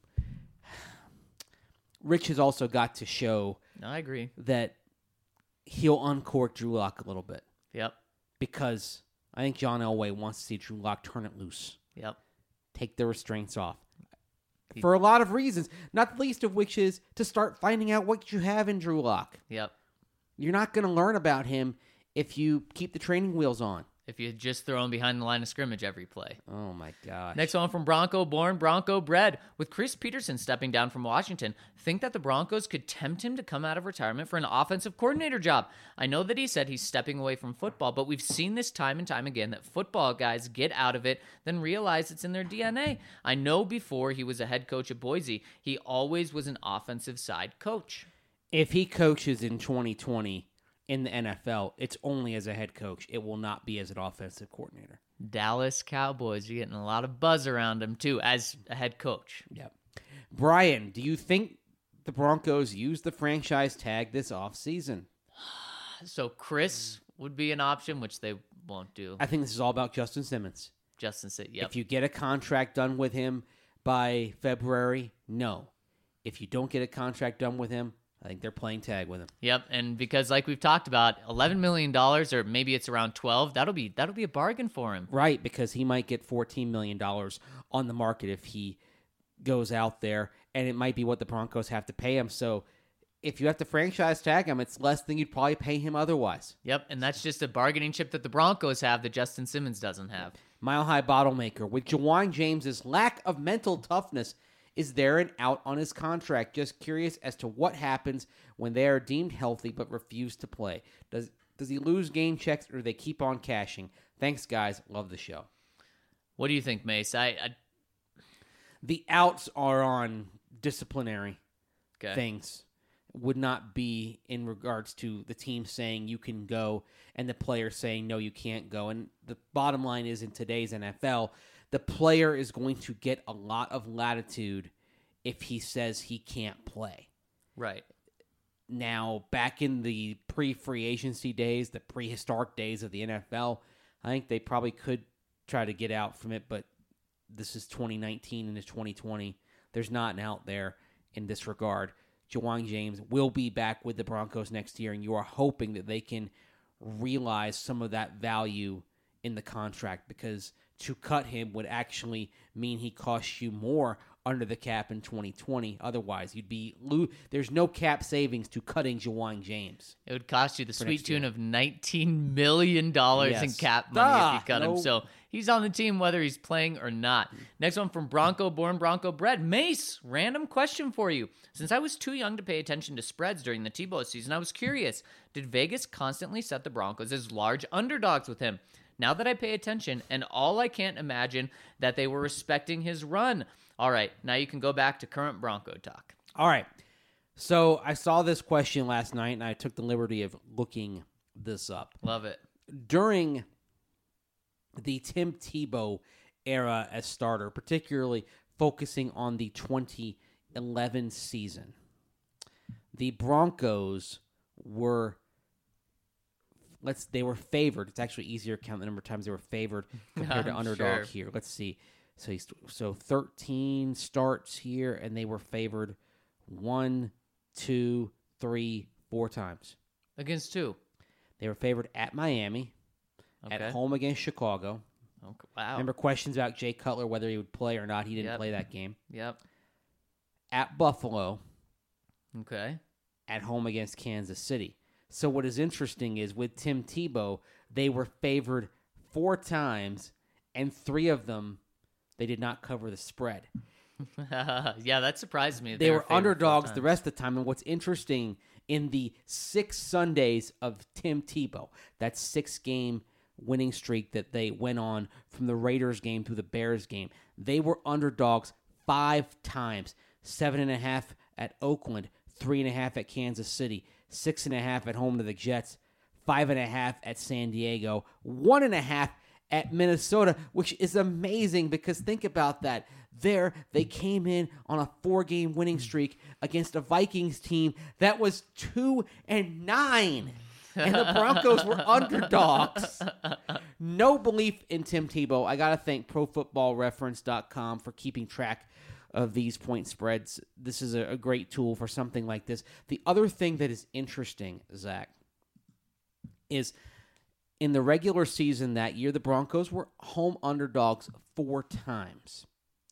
Speaker 3: Rich has also got to show
Speaker 1: No, I agree.
Speaker 3: that he'll uncork Drew Lock a little bit,
Speaker 1: Yep.
Speaker 3: because I think John Elway wants to see Drew Lock turn it loose,
Speaker 1: Yep.
Speaker 3: take the restraints off.
Speaker 1: He-
Speaker 3: For a lot of reasons, not the least of which is to start finding out what you have in Drew Lock.
Speaker 1: Yep.
Speaker 3: You're not going to learn about him if you keep the training wheels on.
Speaker 1: If you just throw him behind the line of scrimmage every play.
Speaker 3: Oh, my gosh.
Speaker 1: Next one from Bronco born, Bronco bred. With Chris Peterson stepping down from Washington, think that the Broncos could tempt him to come out of retirement for an offensive coordinator job. I know that he said he's stepping away from football, but we've seen this time and time again that football guys get out of it, then realize it's in their D N A. I know before he was a head coach at Boise, he always was an offensive side coach.
Speaker 3: If he coaches in twenty twenty in the N F L, it's only as a head coach. It will not be as an offensive coordinator.
Speaker 1: Dallas Cowboys, you're getting a lot of buzz around him too as a head coach.
Speaker 3: Yep. Brian, do you think the Broncos use the franchise tag this offseason?
Speaker 1: So Chris would be an option, which they won't do.
Speaker 3: I think this is all about Justin Simmons.
Speaker 1: Justin said, yep.
Speaker 3: If you get a contract done with him by February, no. If you don't get a contract done with him, I think they're playing tag with him.
Speaker 1: Yep, and because like we've talked about, eleven million dollars, or maybe it's around twelve, that'll be that'll be a bargain for him.
Speaker 3: Right, because he might get fourteen million dollars on the market if he goes out there, and it might be what the Broncos have to pay him. So if you have to franchise tag him, it's less than you'd probably pay him otherwise.
Speaker 1: Yep, and that's just a bargaining chip that the Broncos have that Justin Simmons doesn't have.
Speaker 3: Mile High Bottle Maker. With Jawan James's lack of mental toughness, is there an out on his contract? Just curious as to what happens when they are deemed healthy but refuse to play. Does does he lose game checks, or do they keep on cashing? Thanks, guys. Love the show.
Speaker 1: What do you think, Mace? I, I
Speaker 3: The outs are on disciplinary
Speaker 1: okay.
Speaker 3: things. Would not be in regards to the team saying you can go and the player saying no, you can't go. And the bottom line is, in today's N F L, the player is going to get a lot of latitude if he says he can't play.
Speaker 1: Right.
Speaker 3: Now, back in the pre-free agency days, the prehistoric days of the N F L, I think they probably could try to get out from it, but this is twenty nineteen and it's twenty twenty. There's not an out there in this regard. Jawan James will be back with the Broncos next year, and you are hoping that they can realize some of that value in the contract, because to cut him would actually mean he costs you more under the cap in twenty twenty. Otherwise, you'd be lo- there's no cap savings to cutting Jawan James.
Speaker 1: It would cost you the
Speaker 3: For
Speaker 1: sweet
Speaker 3: next year.
Speaker 1: tune of nineteen million dollars in
Speaker 3: Yes.
Speaker 1: cap money
Speaker 3: Ah,
Speaker 1: if you cut
Speaker 3: no.
Speaker 1: him. So he's on the team whether he's playing or not. Next one from Bronco born, Bronco bred. Mace, random question for you. Since I was too young to pay attention to spreads during the Tebow season, I was curious, did Vegas constantly set the Broncos as large underdogs with him? Now that I pay attention, and all I can't imagine that they were respecting his run. All right, now you can go back to current Bronco talk.
Speaker 3: All right. So I saw this question last night, and I took the liberty of looking this up.
Speaker 1: Love it.
Speaker 3: During the Tim Tebow era as starter, particularly focusing on the twenty eleven season, the Broncos were let's they were favored. It's actually easier to count the number of times they were favored compared to
Speaker 1: I'm
Speaker 3: underdog
Speaker 1: sure.
Speaker 3: here. Let's see. So he's, so thirteen starts here, and they were favored one, two, three, four times.
Speaker 1: Against two.
Speaker 3: They were favored at Miami,
Speaker 1: Okay.
Speaker 3: at home against Chicago.
Speaker 1: Okay. Wow.
Speaker 3: Remember questions about Jay Cutler, whether he would play or not. He didn't
Speaker 1: Yep.
Speaker 3: play that game.
Speaker 1: Yep.
Speaker 3: At Buffalo,
Speaker 1: Okay.
Speaker 3: at home against Kansas City. So what is interesting is with Tim Tebow, they were favored four times, and three of them, they did not cover the spread.
Speaker 1: Yeah, that surprised me. that
Speaker 3: They were
Speaker 1: favored four
Speaker 3: underdogs the
Speaker 1: times.
Speaker 3: rest of the time. And what's interesting, in the six Sundays of Tim Tebow, that six-game winning streak that they went on from the Raiders game to the Bears game, they were underdogs five times. Seven and a half at Oakland, three and a half at Kansas City, six and a half at home to the Jets, five and a half at San Diego, one and a half at Minnesota, which is amazing because think about that. There, they came in on a four-game winning streak against a Vikings team that was two and nine, and the Broncos were underdogs. No belief in Tim Tebow. I gotta thank Pro Football Reference dot com for keeping track of these point spreads. This is a, a great tool for something like this. The other thing that is interesting, Zach, is in the regular season that year, the Broncos were home underdogs four times,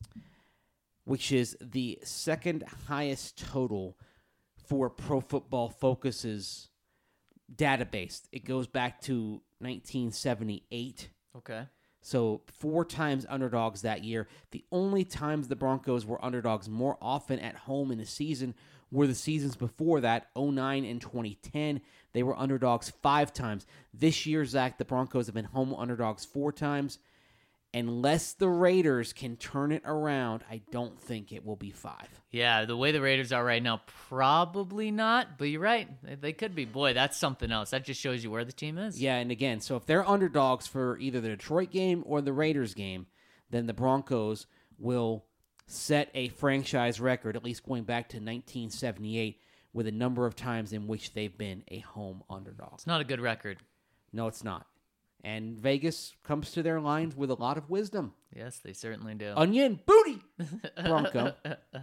Speaker 3: which is the second highest total for Pro Football Focus's database. It goes back to nineteen seventy-eight.
Speaker 1: Okay.
Speaker 3: So four times underdogs that year. The only times the Broncos were underdogs more often at home in a season were the seasons before that, oh nine and twenty ten. They were underdogs five times. This year, Zach, the Broncos have been home underdogs four times. Unless the Raiders can turn it around, I don't think it will be five.
Speaker 1: Yeah, the way the Raiders are right now, probably not. But you're right. They, they could be. Boy, that's something else. That just shows you where the team is.
Speaker 3: Yeah, and again, so if they're underdogs for either the Detroit game or the Raiders game, then the Broncos will set a franchise record, at least going back to nineteen seventy-eight, with a number of times in which they've been a home underdog.
Speaker 1: It's not a good record.
Speaker 3: No, it's not. And Vegas comes to their lines with a lot of wisdom.
Speaker 1: Yes, they certainly do.
Speaker 3: Onion booty, Bronco.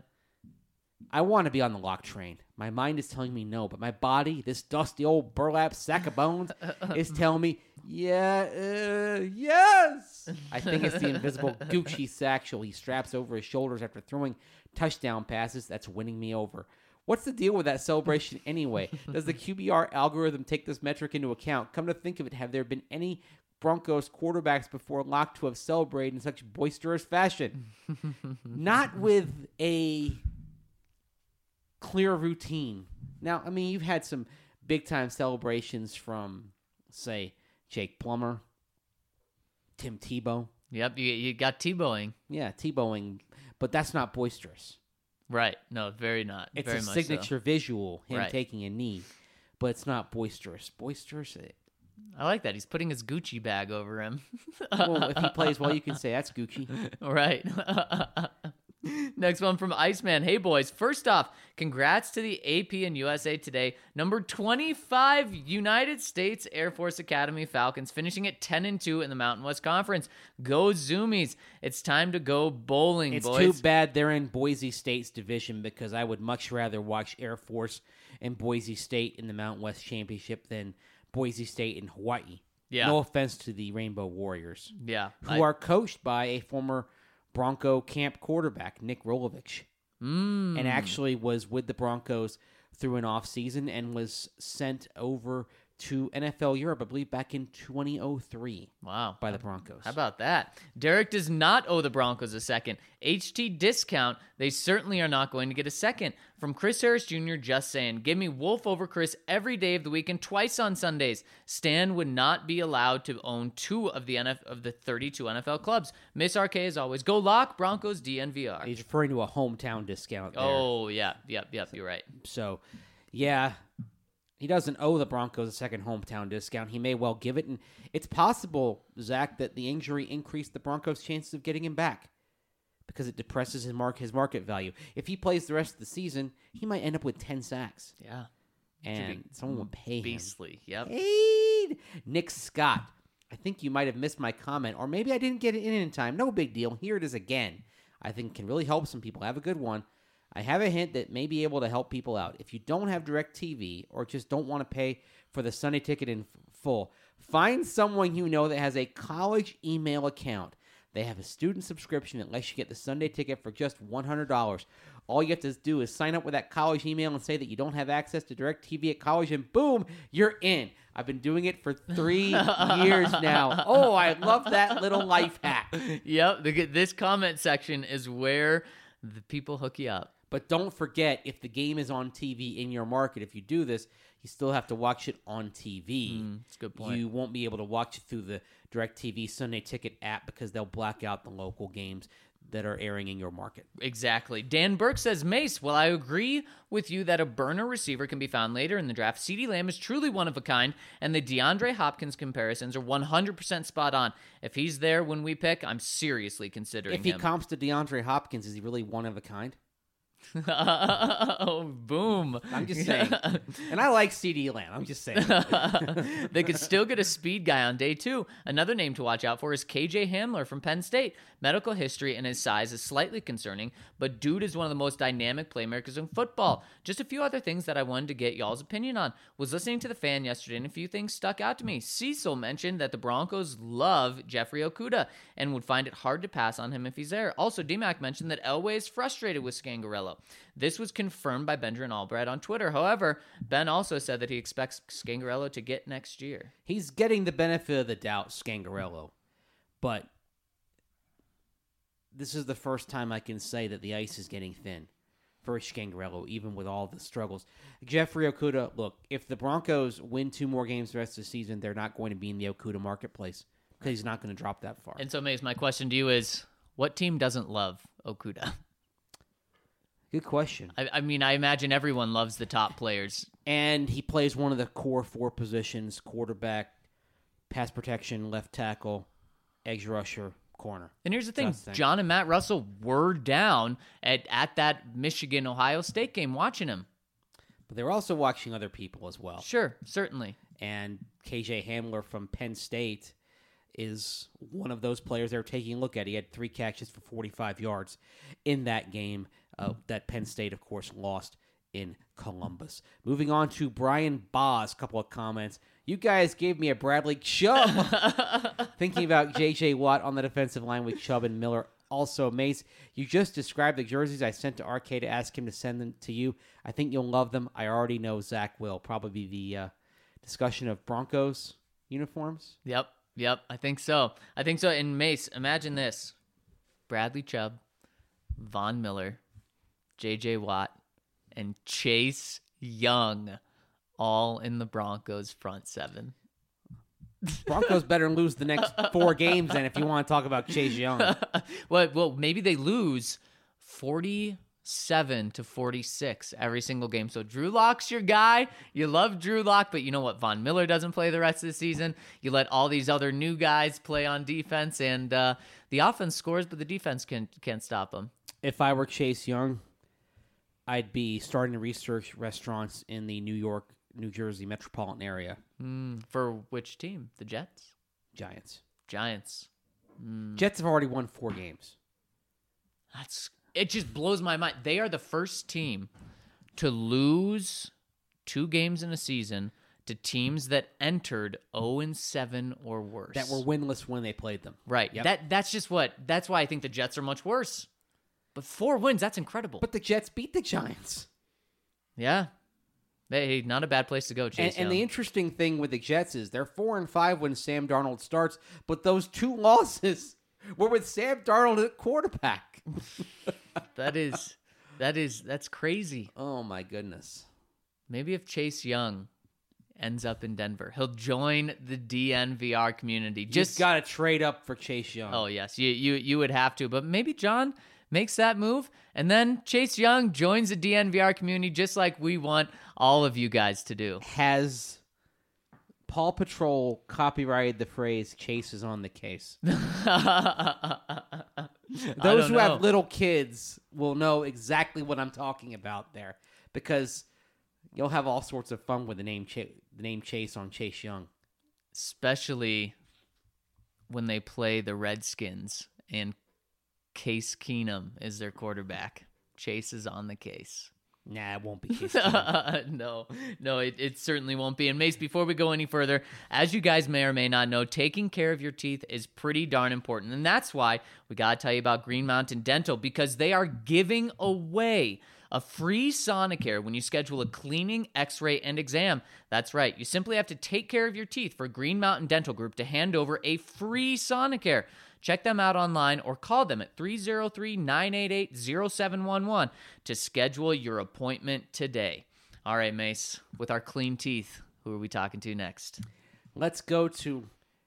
Speaker 3: I want to be on the lock train. My mind is telling me no, but my body, this dusty old burlap sack of bones, is telling me, yeah, uh, yes. I think it's the invisible Gucci satchel he straps over his shoulders after throwing touchdown passes that's winning me over. What's the deal with that celebration anyway? Does the Q B R algorithm take this metric into account? Come to think of it, have there been any Broncos quarterbacks before Locke to have celebrated in such boisterous fashion? Not with a clear routine. Now, I mean, you've had some big-time celebrations from, say, Jake Plummer, Tim Tebow.
Speaker 1: Yep, you, you got Tebowing.
Speaker 3: Yeah, Tebowing, but that's not boisterous.
Speaker 1: Right. No, very not.
Speaker 3: It's
Speaker 1: very
Speaker 3: a
Speaker 1: much
Speaker 3: signature
Speaker 1: so.
Speaker 3: visual, him
Speaker 1: Right.
Speaker 3: taking a knee, but it's not boisterous. Boisterous? eh,
Speaker 1: I like that. He's putting his Gucci bag over him.
Speaker 3: Well, if he plays well, you can say that's Gucci.
Speaker 1: Right. Next one from Iceman. Hey, boys. First off, congrats to the A P and U S A Today. Number twenty-five United States Air Force Academy Falcons finishing at ten and two in the Mountain West Conference. Go Zoomies. It's time to go bowling,
Speaker 3: It's
Speaker 1: boys.
Speaker 3: too bad they're in Boise State's division because I would much rather watch Air Force and Boise State in the Mountain West Championship than Boise State and Hawaii.
Speaker 1: Yeah.
Speaker 3: No offense to the Rainbow Warriors,
Speaker 1: Yeah.
Speaker 3: who
Speaker 1: I-
Speaker 3: are coached by a former Bronco camp quarterback, Nick Rolovich,
Speaker 1: Mm.
Speaker 3: and actually was with the Broncos through an offseason and was sent over to N F L Europe, I believe, back in twenty oh three
Speaker 1: Wow.
Speaker 3: by the Broncos.
Speaker 1: How about that? Derek does not owe the Broncos a second. H T discount. They certainly are not going to get a second. From Chris Harris Junior Just saying, give me Wolf over Chris every day of the week and twice on Sundays. Stan would not be allowed to own two of the N F of the thirty-two N F L clubs. Miss R K as always. Go Lock, Broncos, D N V R.
Speaker 3: He's referring to a hometown discount there.
Speaker 1: Oh, yeah. Yep, yep, you're right.
Speaker 3: So, yeah, he doesn't owe the Broncos a second hometown discount. He may well give it. And it's possible, Zach, that the injury increased the Broncos' chances of getting him back because it depresses his, mark, his market value. If he plays the rest of the season, he might end up with ten sacks.
Speaker 1: Yeah.
Speaker 3: And someone will pay him.
Speaker 1: Beastly. Yep.
Speaker 3: Paid. Nick Scott. I think you might have missed my comment, or maybe I didn't get it in in time. No big deal. Here it is again. I think can really help some people. Have a good one. I have a hint that may be able to help people out. If you don't have DirecTV or just don't want to pay for the Sunday ticket in f- full, find someone you know that has a college email account. They have a student subscription that lets you get the Sunday ticket for just one hundred dollars. All you have to do is sign up with that college email and say that you don't have access to DirecTV at college, and boom, you're in. I've been doing it for three years now. Oh, I love that little life hack.
Speaker 1: Yep. The, this comment section is where The people hook you up.
Speaker 3: But don't forget, if the game is on T V in your market, if you do this, you still have to watch it on T V.
Speaker 1: Mm, that's a good point.
Speaker 3: You won't be able to watch it through the DirecTV Sunday Ticket app because they'll black out the local games that are airing in your market.
Speaker 1: Exactly. Dan Burke says, Mace, well, I agree with you that a burner receiver can be found later in the draft. CeeDee Lamb is truly one of a kind, and the DeAndre Hopkins comparisons are one hundred percent spot on. If he's there when we pick, I'm seriously considering
Speaker 3: If he
Speaker 1: him.
Speaker 3: comps to DeAndre Hopkins, is he really one of a kind?
Speaker 1: Oh, boom.
Speaker 3: I'm just saying. And I like CeeDee Lamb. I'm just saying.
Speaker 1: They could still get a speed guy on day two. Another name to watch out for is K J Hamler from Penn State. Medical history and his size is slightly concerning, but dude is one of the most dynamic playmakers in football. Just a few other things that I wanted to get y'all's opinion on. Was listening to the fan yesterday, and a few things stuck out to me. Cecil mentioned that the Broncos love Jeffrey Okudah and would find it hard to pass on him if he's there. Also, D-Mac mentioned that Elway is frustrated with Scangarello. This was confirmed by Benjamin Albright on Twitter. However, Ben also said that he expects Scangarello to get next year.
Speaker 3: He's getting the benefit of the doubt, Scangarello. But this is the first time I can say that the ice is getting thin for Scangarello, even with all the struggles. Jeffrey Okudah, look, if the Broncos win two more games the rest of the season, they're not going to be in the Okudah marketplace because he's not going to drop that far.
Speaker 1: And so, Mace, my question to you is, what team doesn't love Okudah?
Speaker 3: Good question.
Speaker 1: I, I mean, I imagine everyone loves the top players.
Speaker 3: And he plays one of the core four positions: quarterback, pass protection, left tackle, edge rusher, corner.
Speaker 1: And here's the thing.
Speaker 3: That's the thing.
Speaker 1: John and Matt Russell were down at, at that Michigan-Ohio State game watching him.
Speaker 3: But they were also watching other people as well.
Speaker 1: Sure, certainly.
Speaker 3: And K J Hamler from Penn State is one of those players they're taking a look at. He had three catches for forty-five yards in that game uh, that Penn State, of course, lost in Columbus. Moving on to Brian Boz, couple of comments. You guys gave me a Bradley Chubb. Thinking about J J Watt on the defensive line with Chubb and Miller. Also, Mace, you just described the jerseys I sent to R K to ask him to send them to you. I think you'll love them. I already know Zach will. Probably the uh, discussion of Broncos uniforms.
Speaker 1: Yep, yep, I think so. I think so. And Mace, imagine this. Bradley Chubb, Von Miller, J J Watt, and Chase Young all in the Broncos front seven.
Speaker 3: Broncos better lose the next four games then if you want to talk about Chase Young.
Speaker 1: well, well, maybe they lose forty-seven to forty-six every single game. So Drew Lock's your guy. You love Drew Lock, but you know what? Von Miller doesn't play the rest of the season. You let all these other new guys play on defense, and uh, the offense scores, but the defense can, can't stop them.
Speaker 3: If I were Chase Young, I'd be starting to research restaurants in the New York, New Jersey metropolitan area.
Speaker 1: Mm, for which team? The Jets?
Speaker 3: Giants.
Speaker 1: Giants. Mm.
Speaker 3: Jets have already won four games.
Speaker 1: That's it. Just blows my mind. They are the first team to lose two games in a season to teams that entered oh and seven or worse.
Speaker 3: That were winless when they played them.
Speaker 1: Right.
Speaker 3: Yep.
Speaker 1: That that's just what. That's why I think the Jets are much worse. But four wins, that's incredible.
Speaker 3: But the Jets beat the Giants.
Speaker 1: Yeah. Hey, not a bad place to go, Chase
Speaker 3: And, and the
Speaker 1: Young.
Speaker 3: interesting thing with the Jets is they're four and five when Sam Darnold starts, but those two losses were with Sam Darnold at quarterback.
Speaker 1: that is, that is, that's crazy.
Speaker 3: Oh my goodness!
Speaker 1: Maybe if Chase Young ends up in Denver, he'll join the D N V R community.
Speaker 3: Just
Speaker 1: Just
Speaker 3: got to trade up for Chase Young.
Speaker 1: Oh yes, you you you would have to, but maybe John makes that move, and then Chase Young joins the D N V R community, just like we want all of you guys to do.
Speaker 3: Has Paw Patrol copyrighted the phrase "Chase is on the case"? Those who
Speaker 1: know.
Speaker 3: have little kids will know exactly what I'm talking about there, because you'll have all sorts of fun with the name Ch- the name Chase on Chase Young,
Speaker 1: Especially when they play the Redskins and Case Keenum is their quarterback. Chase is on the case.
Speaker 3: Nah, it won't be Case Keenum.
Speaker 1: no, no, it, it certainly won't be. And Mace, before we go any further, as you guys may or may not know, taking care of your teeth is pretty darn important. And that's why we got to tell you about Green Mountain Dental, because they are giving away a free Sonicare when you schedule a cleaning, x-ray, and exam. That's right. You simply have to take care of your teeth for Green Mountain Dental Group to hand over a free Sonicare. Check them out online or call them at three oh three, nine eight eight, oh seven one one to schedule your appointment today. All right, Mace, with our clean teeth, who are we talking to next?
Speaker 3: Let's go to,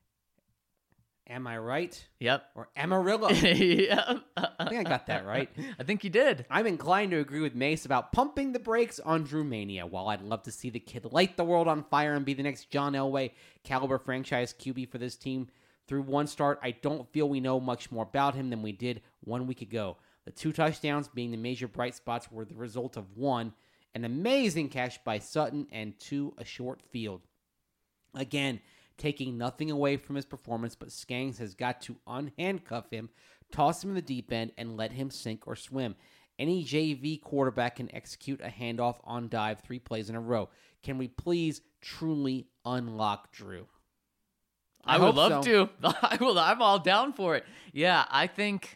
Speaker 3: am I right?
Speaker 1: Yep.
Speaker 3: Or Amarillo.
Speaker 1: Yep.
Speaker 3: I think I got that right.
Speaker 1: I think you did.
Speaker 3: I'm inclined to agree with Mace about pumping the brakes on Drew Mania. While I'd love to see the kid light the world on fire and be the next John Elway caliber franchise Q B for this team, through one start, I don't feel we know much more about him than we did one week ago. The two touchdowns being the major bright spots were the result of one, an amazing catch by Sutton, and two, a short field. Again, taking nothing away from his performance, but Skangs has got to unhandcuff him, toss him in the deep end, and let him sink or swim. Any J V quarterback can execute a handoff on dive three plays in a row. Can we please truly unlock Drew?
Speaker 1: I, I would love so. to. I will. I'm all down for it. Yeah, I think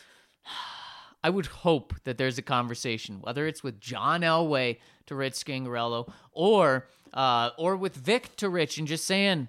Speaker 1: I would hope that there's a conversation, whether it's with John Elway to Rich Scangarello or uh, or with Vic to Rich, and just saying,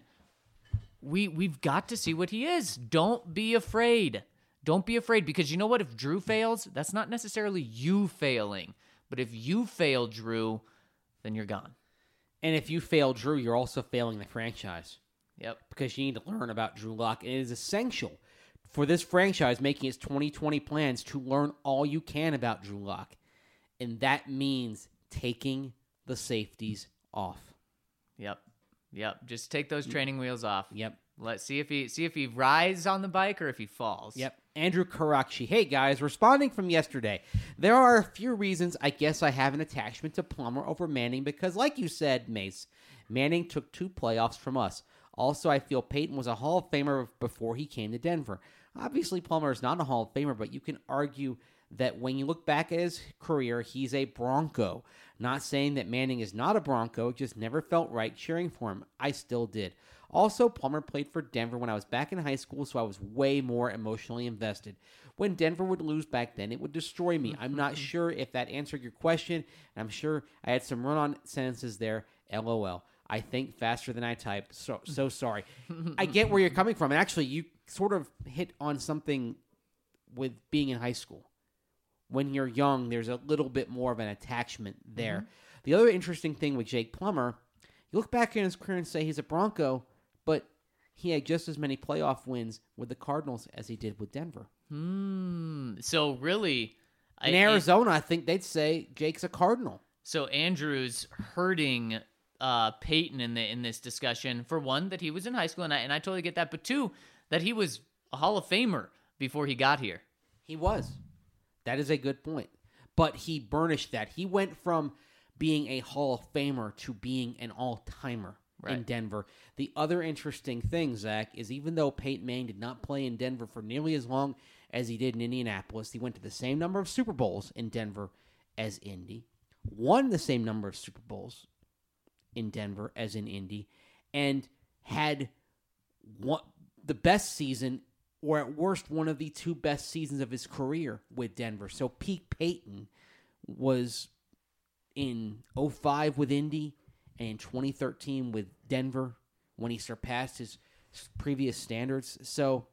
Speaker 1: we we've got to see what he is. Don't be afraid. Don't be afraid, because you know what? If Drew fails, that's not necessarily you failing, but if you fail Drew, then you're gone.
Speaker 3: And if you fail Drew, you're also failing the franchise.
Speaker 1: Yep.
Speaker 3: Because you need to learn about Drew Lock. It is essential for this franchise making its twenty twenty plans to learn all you can about Drew Lock. And that means taking the safeties off.
Speaker 1: Yep. Yep. Just take those training wheels off.
Speaker 3: Yep.
Speaker 1: Let's see if he see if he rides on the bike or if he falls.
Speaker 3: Yep. Andrew Karakshi. Hey, guys. Responding from yesterday. There are a few reasons I guess I have an attachment to Plummer over Manning because, like you said, Mace, Manning took two playoffs from us. Also, I feel Peyton was a Hall of Famer before he came to Denver. Obviously, Plummer is not a Hall of Famer, but you can argue that when you look back at his career, he's a Bronco. Not saying that Manning is not a Bronco, it just never felt right cheering for him. I still did. Also, Plummer played for Denver when I was back in high school, so I was way more emotionally invested. When Denver would lose back then, it would destroy me. I'm not sure if that answered your question, and I'm sure I had some run-on sentences there. LOL. I think faster than I type. So so sorry. I get where you're coming from. And actually, you sort of hit on something with being in high school. When you're young, there's a little bit more of an attachment there. Mm-hmm. The other interesting thing with Jake Plummer, you look back in his career and say he's a Bronco, but he had just as many playoff wins with the Cardinals as he did with Denver.
Speaker 1: Hmm. So really,
Speaker 3: in I, Arizona, I think they'd say Jake's a Cardinal.
Speaker 1: So Andrew's hurting Uh, Peyton in the in this discussion. For one, that he was in high school, and I, and I totally get that. But two, that he was a Hall of Famer before he got here.
Speaker 3: He was. That is a good point. But he burnished that. He went from being a Hall of Famer to being an all-timer right. in Denver. The other interesting thing, Zach, is even though Peyton Manning did not play in Denver for nearly as long as he did in Indianapolis, he went to the same number of Super Bowls in Denver as Indy, won the same number of Super Bowls in Denver as in Indy, and had one, the best season, or at worst, one of the two best seasons of his career with Denver. So peak Peyton was in oh five with Indy and in twenty thirteen with Denver when he surpassed his previous standards. So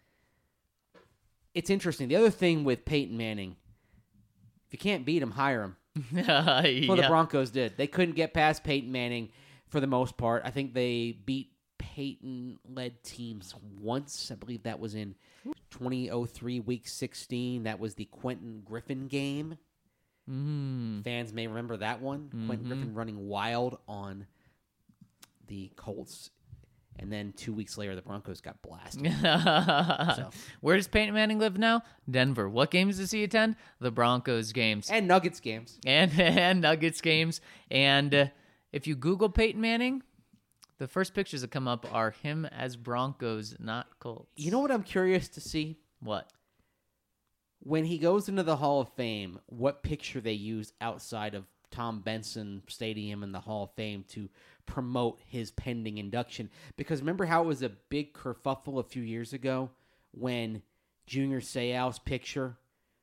Speaker 3: it's interesting. The other thing with Peyton Manning, if you can't beat him, hire him.
Speaker 1: uh,
Speaker 3: well, the Broncos did. They couldn't get past Peyton Manning for the most part. I think they beat Peyton-led teams once. I believe that was in twenty oh three, Week sixteen. That was the Quentin Griffin game.
Speaker 1: Mm.
Speaker 3: Fans may remember that one. Mm-hmm. Quentin Griffin running wild on the Colts. And then two weeks later, the Broncos got blasted. so.
Speaker 1: Where does Peyton Manning live now? Denver. What games does he attend? The Broncos games.
Speaker 3: And Nuggets games.
Speaker 1: And, and Nuggets games. And uh, if you Google Peyton Manning, the first pictures that come up are him as Broncos, not Colts.
Speaker 3: You know what I'm curious to see?
Speaker 1: What?
Speaker 3: When he goes into the Hall of Fame, what picture they use outside of Tom Benson Stadium and the Hall of Fame to promote his pending induction. Because remember how it was a big kerfuffle a few years ago when Junior Seau's picture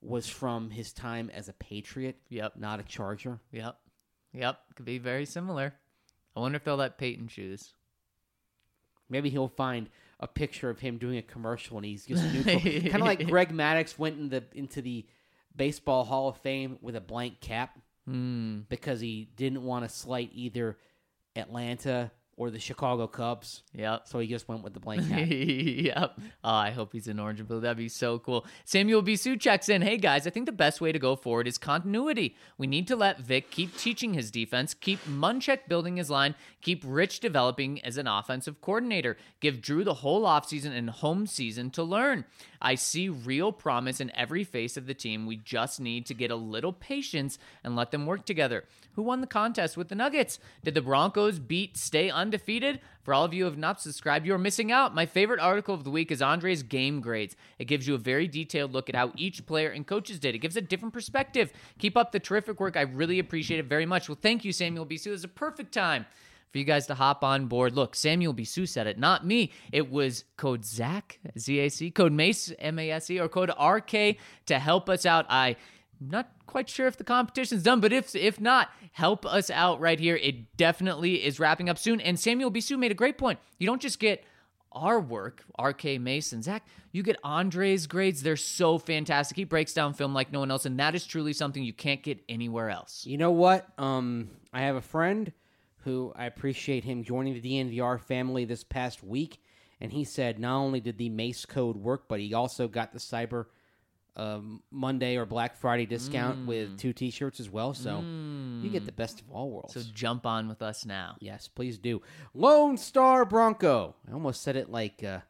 Speaker 3: was from his time as a Patriot,
Speaker 1: Yep.
Speaker 3: not a Charger.
Speaker 1: Yep. Yep. Could be very similar. I wonder if they'll let Peyton choose.
Speaker 3: Maybe he'll find a picture of him doing a commercial and he's just neutral. Kind of like Greg Maddux went in the into the Baseball Hall of Fame with a blank cap
Speaker 1: Hmm.
Speaker 3: because he didn't want to slight either Atlanta or the Chicago Cubs.
Speaker 1: Yep.
Speaker 3: So he just went with the blank cap.
Speaker 1: Yep. Oh, I hope he's in orange and blue. That'd be so cool. Samuel Bisou checks in. Hey, guys, I think the best way to go forward is continuity. We need to let Vic keep teaching his defense, keep Munchak building his line, keep Rich developing as an offensive coordinator, give Drew the whole offseason and home season to learn. I see real promise in every face of the team. We just need to get a little patience and let them work together. Who won the contest with the Nuggets? Did the Broncos beat stay undefeated? For all of you who have not subscribed, you are missing out. My favorite article of the week is Andre's game grades. It gives you a very detailed look at how each player and coaches did. It gives a different perspective. Keep up the terrific work. I really appreciate it very much. Well, thank you, Samuel Bisou. It's a perfect time for you guys to hop on board. Look, Samuel Bisou said it, not me. It was code ZAC, Z A C, code MACE, M A S E, or code R K to help us out. I'm not quite sure if the competition's done, but if if not, help us out right here. It definitely is wrapping up soon. And Samuel Bisou made a great point. You don't just get our work, R K, Mason, Zach, you get Andre's grades. They're so fantastic. He breaks down film like no one else, and that is truly something you can't get anywhere else.
Speaker 3: You know what? Um, I have a friend who I appreciate him joining the D N V R family this past week, and he said not only did the Mace code work, but he also got the Cyber um, Monday or Black Friday discount
Speaker 1: Mm.
Speaker 3: with two T-shirts as well. So you get the best of all worlds.
Speaker 1: So jump on with us now.
Speaker 3: Yes, please do. Lone Star Bronco. I almost said it like uh,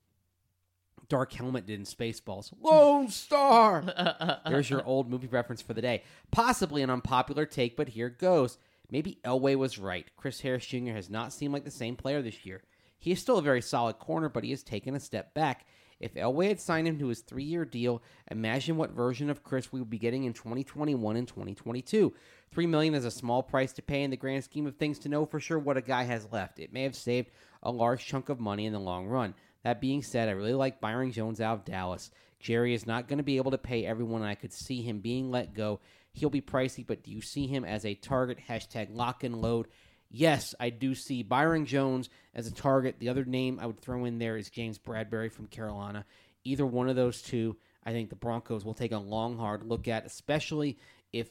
Speaker 3: Dark Helmet did in Spaceballs. Lone Star. There's your old movie reference for the day. Possibly an unpopular take, but here goes. Maybe Elway was right. Chris Harris Junior has not seemed like the same player this year. He is still a very solid corner, but he has taken a step back. If Elway had signed him to his three-year deal, imagine what version of Chris we would be getting in twenty twenty-one and twenty twenty-two. Three million dollars is a small price to pay in the grand scheme of things to know for sure what a guy has left. It may have saved a large chunk of money in the long run. That being said, I really like Byron Jones out of Dallas. Jerry is not going to be able to pay everyone, and I could see him being let go. He'll be pricey, but do you see him as a target? Hashtag lock and load. Yes, I do see Byron Jones as a target. The other name I would throw in there is James Bradbury from Carolina. Either one of those two, I think the Broncos will take a long, hard look at, especially if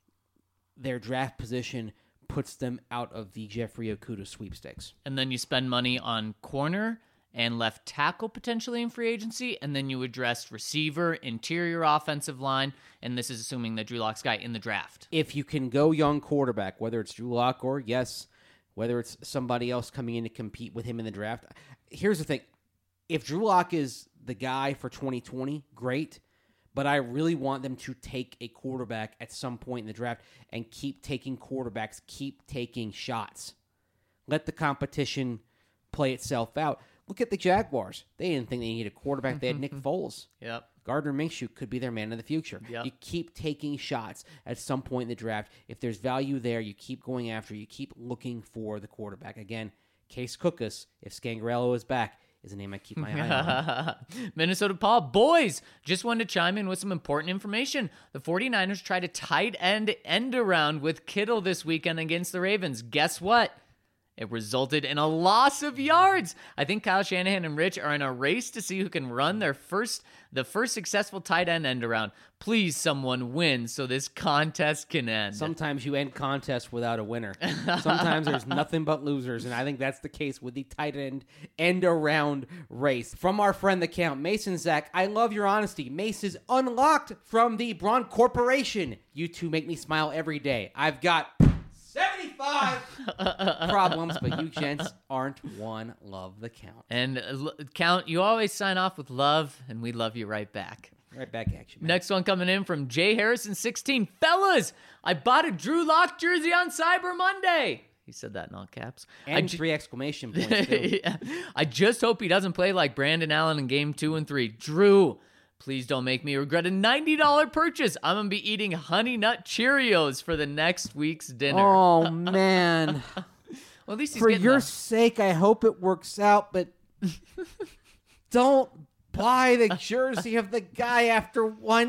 Speaker 3: their draft position puts them out of the Jeffrey Okudah sweepstakes.
Speaker 1: And then you spend money on corner and left tackle potentially in free agency, and then you address receiver, interior offensive line, and this is assuming that Drew Lock's guy in the draft.
Speaker 3: If you can go young quarterback, whether it's Drew Lock or, yes, whether it's somebody else coming in to compete with him in the draft. Here's the thing. If Drew Lock is the guy for twenty twenty, great, but I really want them to take a quarterback at some point in the draft and keep taking quarterbacks, keep taking shots. Let the competition play itself out. Look at the Jaguars. They didn't think they needed a quarterback. They had Nick Foles.
Speaker 1: Yep.
Speaker 3: Gardner Minshew could be their man of the future.
Speaker 1: Yep.
Speaker 3: You keep taking shots at some point in the draft. If there's value there, you keep going after. You keep looking for the quarterback. Again, Case Cookus, if Scangarello is back, is a name I keep my eye on.
Speaker 1: Minnesota Paul, boys, just wanted to chime in with some important information. The 49ers tried a tight end end around with Kittle this weekend against the Ravens. Guess what? It resulted in a loss of yards. I think Kyle Shanahan and Rich are in a race to see who can run their first, the first successful tight end end around. Please, someone win so this contest can end.
Speaker 3: Sometimes you end contests without a winner. Sometimes there's nothing but losers, and I think that's the case with the tight end end around race. From our friend the Count, Mason Zach, I love your honesty. Mace is unlocked from the Braun Corporation. You two make me smile every day. I've got seventy-five problems, but you gents aren't one. Love the Count.
Speaker 1: And uh, l- Count, you always sign off with love, and we love you right back.
Speaker 3: Right back at you, man.
Speaker 1: Next one coming in from Jay Harrison sixteen. Fellas, I bought a Drew Lock jersey on Cyber Monday. He said that in all caps. I
Speaker 3: And
Speaker 1: ju-
Speaker 3: three exclamation points, too.
Speaker 1: Yeah. I just hope he doesn't play like Brandon Allen in game two and three. Drew, please don't make me regret a ninety dollars purchase. I'm going to be eating Honey Nut Cheerios for the next week's dinner.
Speaker 3: Oh, man.
Speaker 1: Well, at least he's
Speaker 3: For
Speaker 1: getting
Speaker 3: your
Speaker 1: the-
Speaker 3: sake, I hope it works out, but don't buy the jersey of the guy after one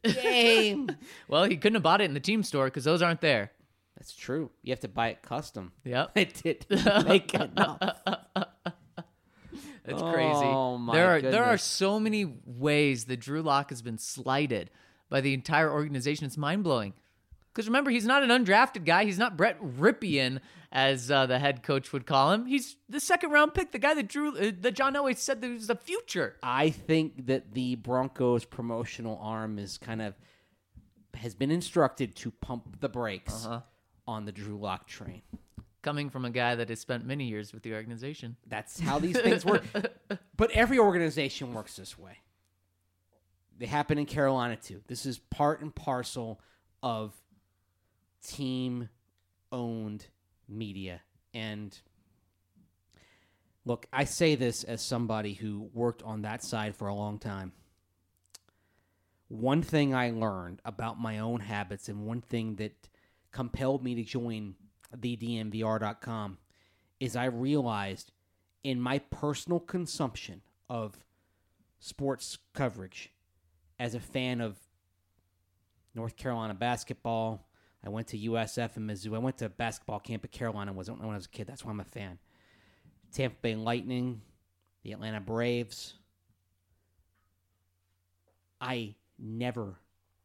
Speaker 3: game.
Speaker 1: Well, he couldn't have bought it in the team store because those aren't there.
Speaker 3: That's true. You have to buy it custom.
Speaker 1: Yep.
Speaker 3: It didn't make enough.
Speaker 1: That's crazy.
Speaker 3: Oh, my
Speaker 1: there are there are
Speaker 3: goodness.
Speaker 1: so many ways that Drew Lock has been slighted by the entire organization. It's mind blowing. Because remember, he's not an undrafted guy. He's not Brett Ripien, as uh, the head coach would call him. He's the second round pick, the guy that Drew uh, that John Elway said that was the future.
Speaker 3: I think that the Broncos promotional arm is kind of has been instructed to pump the brakes
Speaker 1: Uh-huh.
Speaker 3: on the Drew Lock train.
Speaker 1: Coming from a guy that has spent many years with the organization.
Speaker 3: That's how these things work. But every organization works this way. They happen in Carolina too. This is part and parcel of team-owned media. And look, I say this as somebody who worked on that side for a long time. One thing I learned about my own habits and one thing that compelled me to join the D M V R dot com is I realized in my personal consumption of sports coverage as a fan of North Carolina basketball. I went to U S F in Mizzou. I went to basketball camp at Carolina when I was a kid. That's why I'm a fan. Tampa Bay Lightning, the Atlanta Braves. I never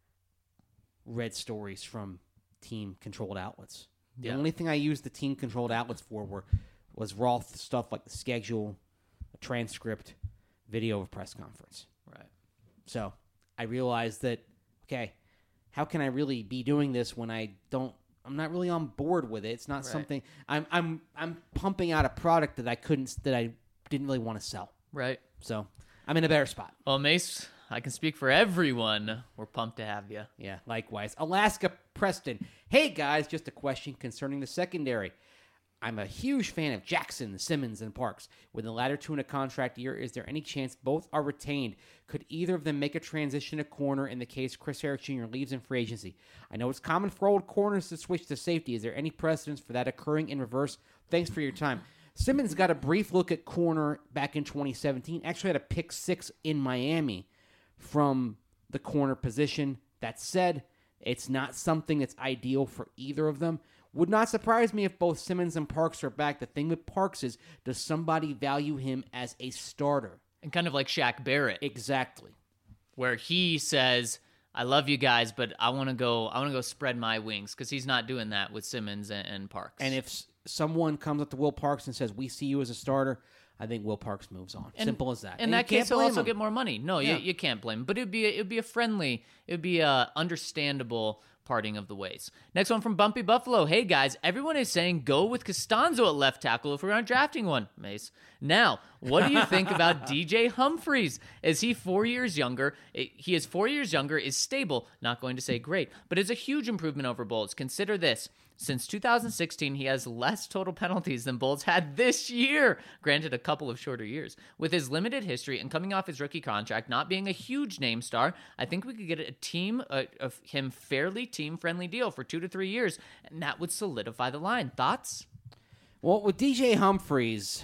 Speaker 3: read stories from team-controlled outlets. The
Speaker 1: Yeah.
Speaker 3: only thing I used the team-controlled outlets for were was raw th- stuff like the schedule, a transcript, video of a press conference.
Speaker 1: Right.
Speaker 3: So I realized that, okay, how can I really be doing this when I don't? I'm not really on board with it. It's not
Speaker 1: Right.
Speaker 3: something I'm. I'm. I'm pumping out a product that I couldn't. That I didn't really want to sell.
Speaker 1: Right.
Speaker 3: So I'm in a better spot.
Speaker 1: Well, Mace, I can speak for everyone. We're pumped to have you.
Speaker 3: Yeah, likewise. Alaska Preston. Hey, guys, just a question concerning the secondary. I'm a huge fan of Jackson, Simmons, and Parks. With the latter two in a contract year, is there any chance both are retained? Could either of them make a transition to corner in the case Chris Harris Junior leaves in free agency? I know it's common for old corners to switch to safety. Is there any precedence for that occurring in reverse? Thanks for your time. Simmons got a brief look at corner back in twenty seventeen. Actually had a pick six in Miami from the corner position. That said, it's not something that's ideal for either of them. Would not surprise me if both Simmons and Parks are back. The thing with Parks is, does somebody value him as a starter?
Speaker 1: And kind of like Shaq Barrett,
Speaker 3: Exactly.
Speaker 1: where he says, I love you guys, but I want to go I want to go spread my wings, because he's not doing that with Simmons and, and Parks.
Speaker 3: And if s- someone comes up to Will Parks and says, we see you as a starter, I think Will Parks moves on.
Speaker 1: And-
Speaker 3: Simple as that.
Speaker 1: In
Speaker 3: And
Speaker 1: that
Speaker 3: you can't
Speaker 1: case, he'll
Speaker 3: blame
Speaker 1: also
Speaker 3: him.
Speaker 1: get more money. No,
Speaker 3: Yeah.
Speaker 1: you, you can't blame him. But it'd be a, it'd be a friendly, it'd be a understandable parting of the ways. Next one from Bumpy Buffalo. Hey guys, everyone is saying go with Costanzo at left tackle if we aren't drafting one. Mace. Now, what do you think about D J Humphries? Is he four years younger? He is four years younger, is stable, not going to say great, but is a huge improvement over Bolts. Consider this. Since two thousand sixteen, he has less total penalties than Bolts had this year. Granted, a couple of shorter years. With his limited history and coming off his rookie contract, not being a huge name star, I think we could get a team uh, of him fairly team-friendly deal for two to three years, and that would solidify the line. Thoughts?
Speaker 3: Well, with D J Humphries,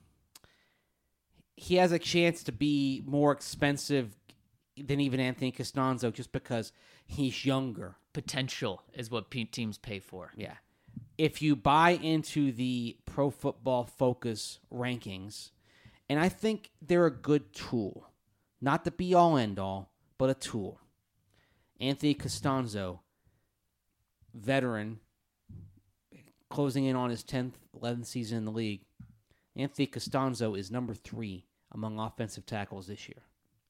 Speaker 3: he has a chance to be more expensive than even Anthony Costanzo just because he's younger.
Speaker 1: Potential is what pe- teams pay for.
Speaker 3: Yeah. If you buy into the Pro Football Focus rankings, and I think they're a good tool, not the be-all, end-all, but a tool. Anthony Costanzo, veteran, closing in on his tenth, eleventh season in the league. Anthony Costanzo is number three among offensive tackles this year.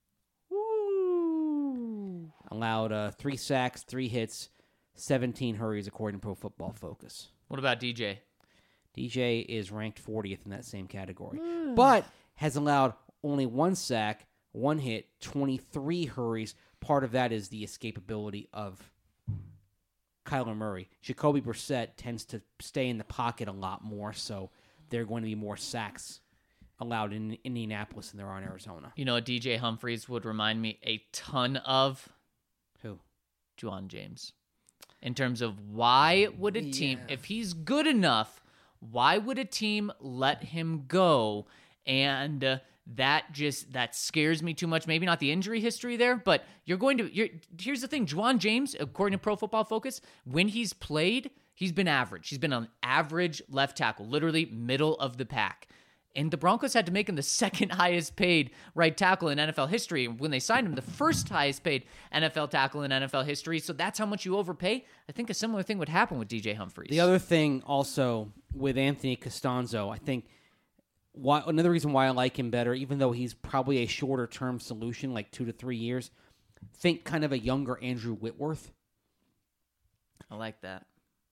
Speaker 1: Woo!
Speaker 3: Allowed uh, three sacks, three hits, seventeen hurries, according to Pro Football Focus.
Speaker 1: What about D J?
Speaker 3: D J is ranked fortieth in that same category, but has allowed only one sack, one hit, twenty-three hurries. Part of that is the escapability of Kyler Murray. Jacoby Brissett tends to stay in the pocket a lot more, so there are going to be more sacks allowed in Indianapolis than there are in Arizona.
Speaker 1: You know, D J Humphries would remind me a ton of
Speaker 3: Who?
Speaker 1: Juwan James. In terms of why would a team,
Speaker 3: Yeah.
Speaker 1: if he's good enough, why would a team let him go and uh, that just that scares me too much. Maybe not the injury history there, but you're going to. You're, here's the thing: Juwan James, according to Pro Football Focus, when he's played, he's been average. He's been an average left tackle, literally middle of the pack. And the Broncos had to make him the second highest paid right tackle in N F L history. When they signed him, the first highest paid N F L tackle in N F L history. So that's how much you overpay. I think a similar thing would happen with D J Humphries.
Speaker 3: The other thing also with Anthony Costanzo, I think why, another reason why I like him better, even though he's probably a shorter term solution, like two to three years, think kind of a younger Andrew Whitworth.
Speaker 1: I like that.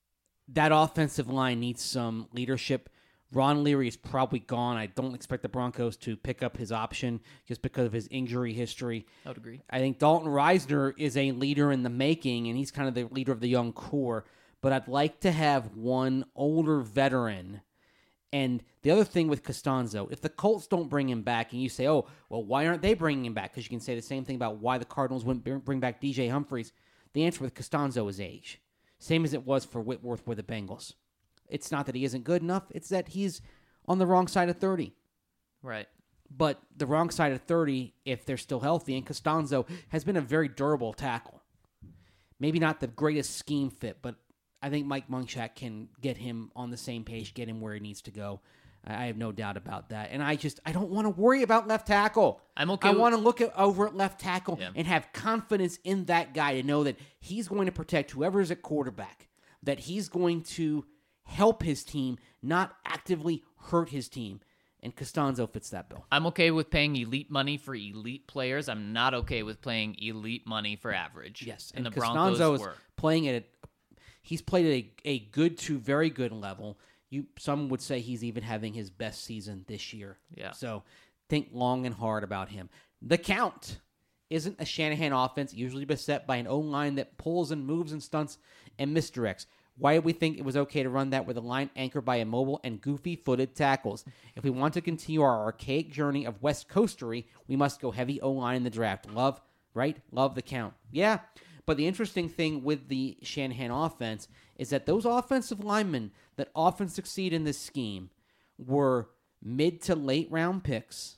Speaker 3: That offensive line needs some leadership. Ron Leary is probably gone. I don't expect the Broncos to pick up his option just because of his injury history.
Speaker 1: I would agree.
Speaker 3: I think Dalton Reisner is a leader in the making, and he's kind of the leader of the young core. But I'd like to have one older veteran. And the other thing with Costanzo, if the Colts don't bring him back, and you say, oh, well, why aren't they bringing him back? Because you can say the same thing about why the Cardinals wouldn't bring back D J Humphries. The answer with Costanzo is age. Same as it was for Whitworth with the Bengals. It's not that he isn't good enough. It's that he's on the wrong side of thirty.
Speaker 1: Right.
Speaker 3: But the wrong side of thirty, if they're still healthy, and Costanzo has been a very durable tackle. Maybe not the greatest scheme fit, but I think Mike Munchak can get him on the same page, get him where he needs to go. I have no doubt about that. And I just, I don't want to worry about left tackle.
Speaker 1: I'm okay
Speaker 3: I
Speaker 1: with-
Speaker 3: want to look at, over at left tackle
Speaker 1: Yeah.
Speaker 3: and have confidence in that guy to know that he's going to protect whoever's at quarterback, that he's going to help his team, not actively hurt his team. And Costanzo fits that bill.
Speaker 1: I'm okay with paying elite money for elite players. I'm not okay with playing elite money for average.
Speaker 3: Yes,
Speaker 1: and,
Speaker 3: and
Speaker 1: the
Speaker 3: Costanzo
Speaker 1: Broncos
Speaker 3: is
Speaker 1: were.
Speaker 3: playing at a, he's played at a, a good to very good level. You some would say he's even having his best season this year.
Speaker 1: Yeah.
Speaker 3: So think long and hard about him. The count isn't a Shanahan offense usually beset by an O-line that pulls and moves and stunts and misdirects. Why do we think it was okay to run that with a line anchored by immobile and goofy-footed tackles? If we want to continue our archaic journey of West Coastery, we must go heavy O-line in the draft. Love, right? Love the count. Yeah, but the interesting thing with the Shanahan offense is that those offensive linemen that often succeed in this scheme were mid to late round picks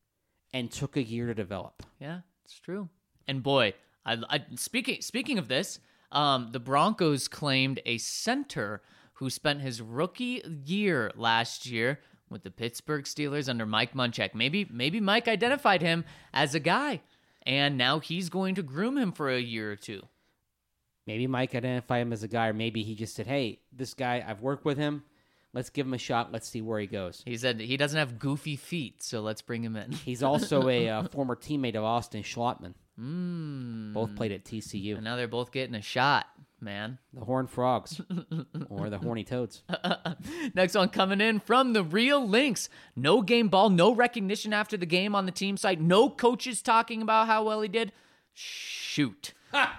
Speaker 3: and took a year to develop.
Speaker 1: Yeah, it's true. And boy, I, I speaking speaking of this, um, the Broncos claimed a center who spent his rookie year last year with the Pittsburgh Steelers under Mike Munchak. Maybe maybe Mike identified him as a guy, and now he's going to groom him for a year or two.
Speaker 3: Maybe Mike identified him as a guy, or maybe he just said, hey, this guy, I've worked with him. Let's give him a shot. Let's see where he goes.
Speaker 1: He said he doesn't have goofy feet, so let's bring him in.
Speaker 3: He's also a uh, former teammate of Austin Schlottman.
Speaker 1: Mm.
Speaker 3: Both played at T C U.
Speaker 1: And now they're both getting a shot, man.
Speaker 3: The Horned Frogs. Or the Horny Toads.
Speaker 1: Next one coming in from the Real Lynx. No game ball, no recognition after the game on the team site. No coaches talking about how well he did. Shoot.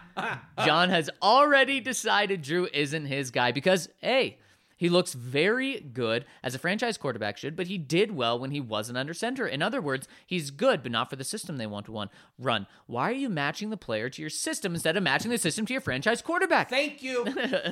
Speaker 1: John has already decided Drew isn't his guy because, hey, he looks very good, as a franchise quarterback should, but he did well when he wasn't under center. In other words, he's good, but not for the system they want to run. Why are you matching the player to your system instead of matching the system to your franchise quarterback?
Speaker 3: Thank you.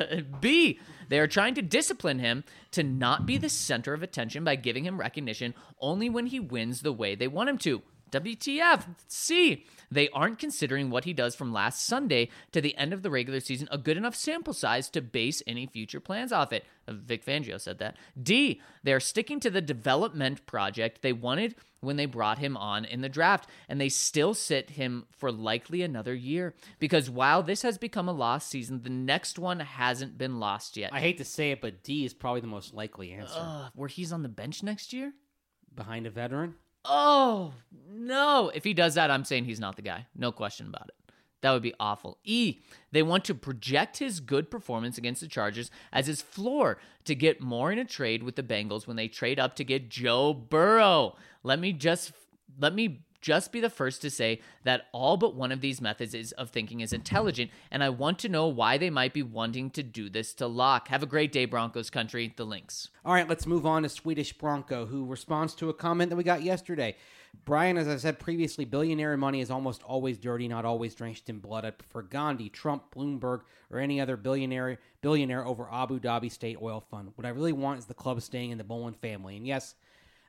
Speaker 1: B, they are trying to discipline him to not be the center of attention by giving him recognition only when he wins the way they want him to. W T F. C, they aren't considering what he does from last Sunday to the end of the regular season a good enough sample size to base any future plans off it. Vic Fangio said that. D, they're sticking to the development project they wanted when they brought him on in the draft, and they still sit him for likely another year. Because while this has become a lost season, the next one hasn't been lost yet.
Speaker 3: I hate to say it, but D is probably the most likely answer.
Speaker 1: Uh, where he's on the bench next year?
Speaker 3: Behind a veteran?
Speaker 1: Oh, no. If he does that, I'm saying he's not the guy. No question about it. That would be awful. E, they want to project his good performance against the Chargers as his floor to get more in a trade with the Bengals when they trade up to get Joe Burrow. Let me just let me just be the first to say that all but one of these methods is, of thinking is intelligent, and I want to know why they might be wanting to do this to Locke. Have a great day, Broncos country. The Lynx.
Speaker 3: All right, let's move on to Swedish Bronco, who responds to a comment that we got yesterday. Brian, as I said previously, billionaire money is almost always dirty, not always drenched in blood. I prefer Gandhi, Trump, Bloomberg, or any other billionaire billionaire over Abu Dhabi State Oil Fund. What I really want is the club staying in the Bolin family. And yes,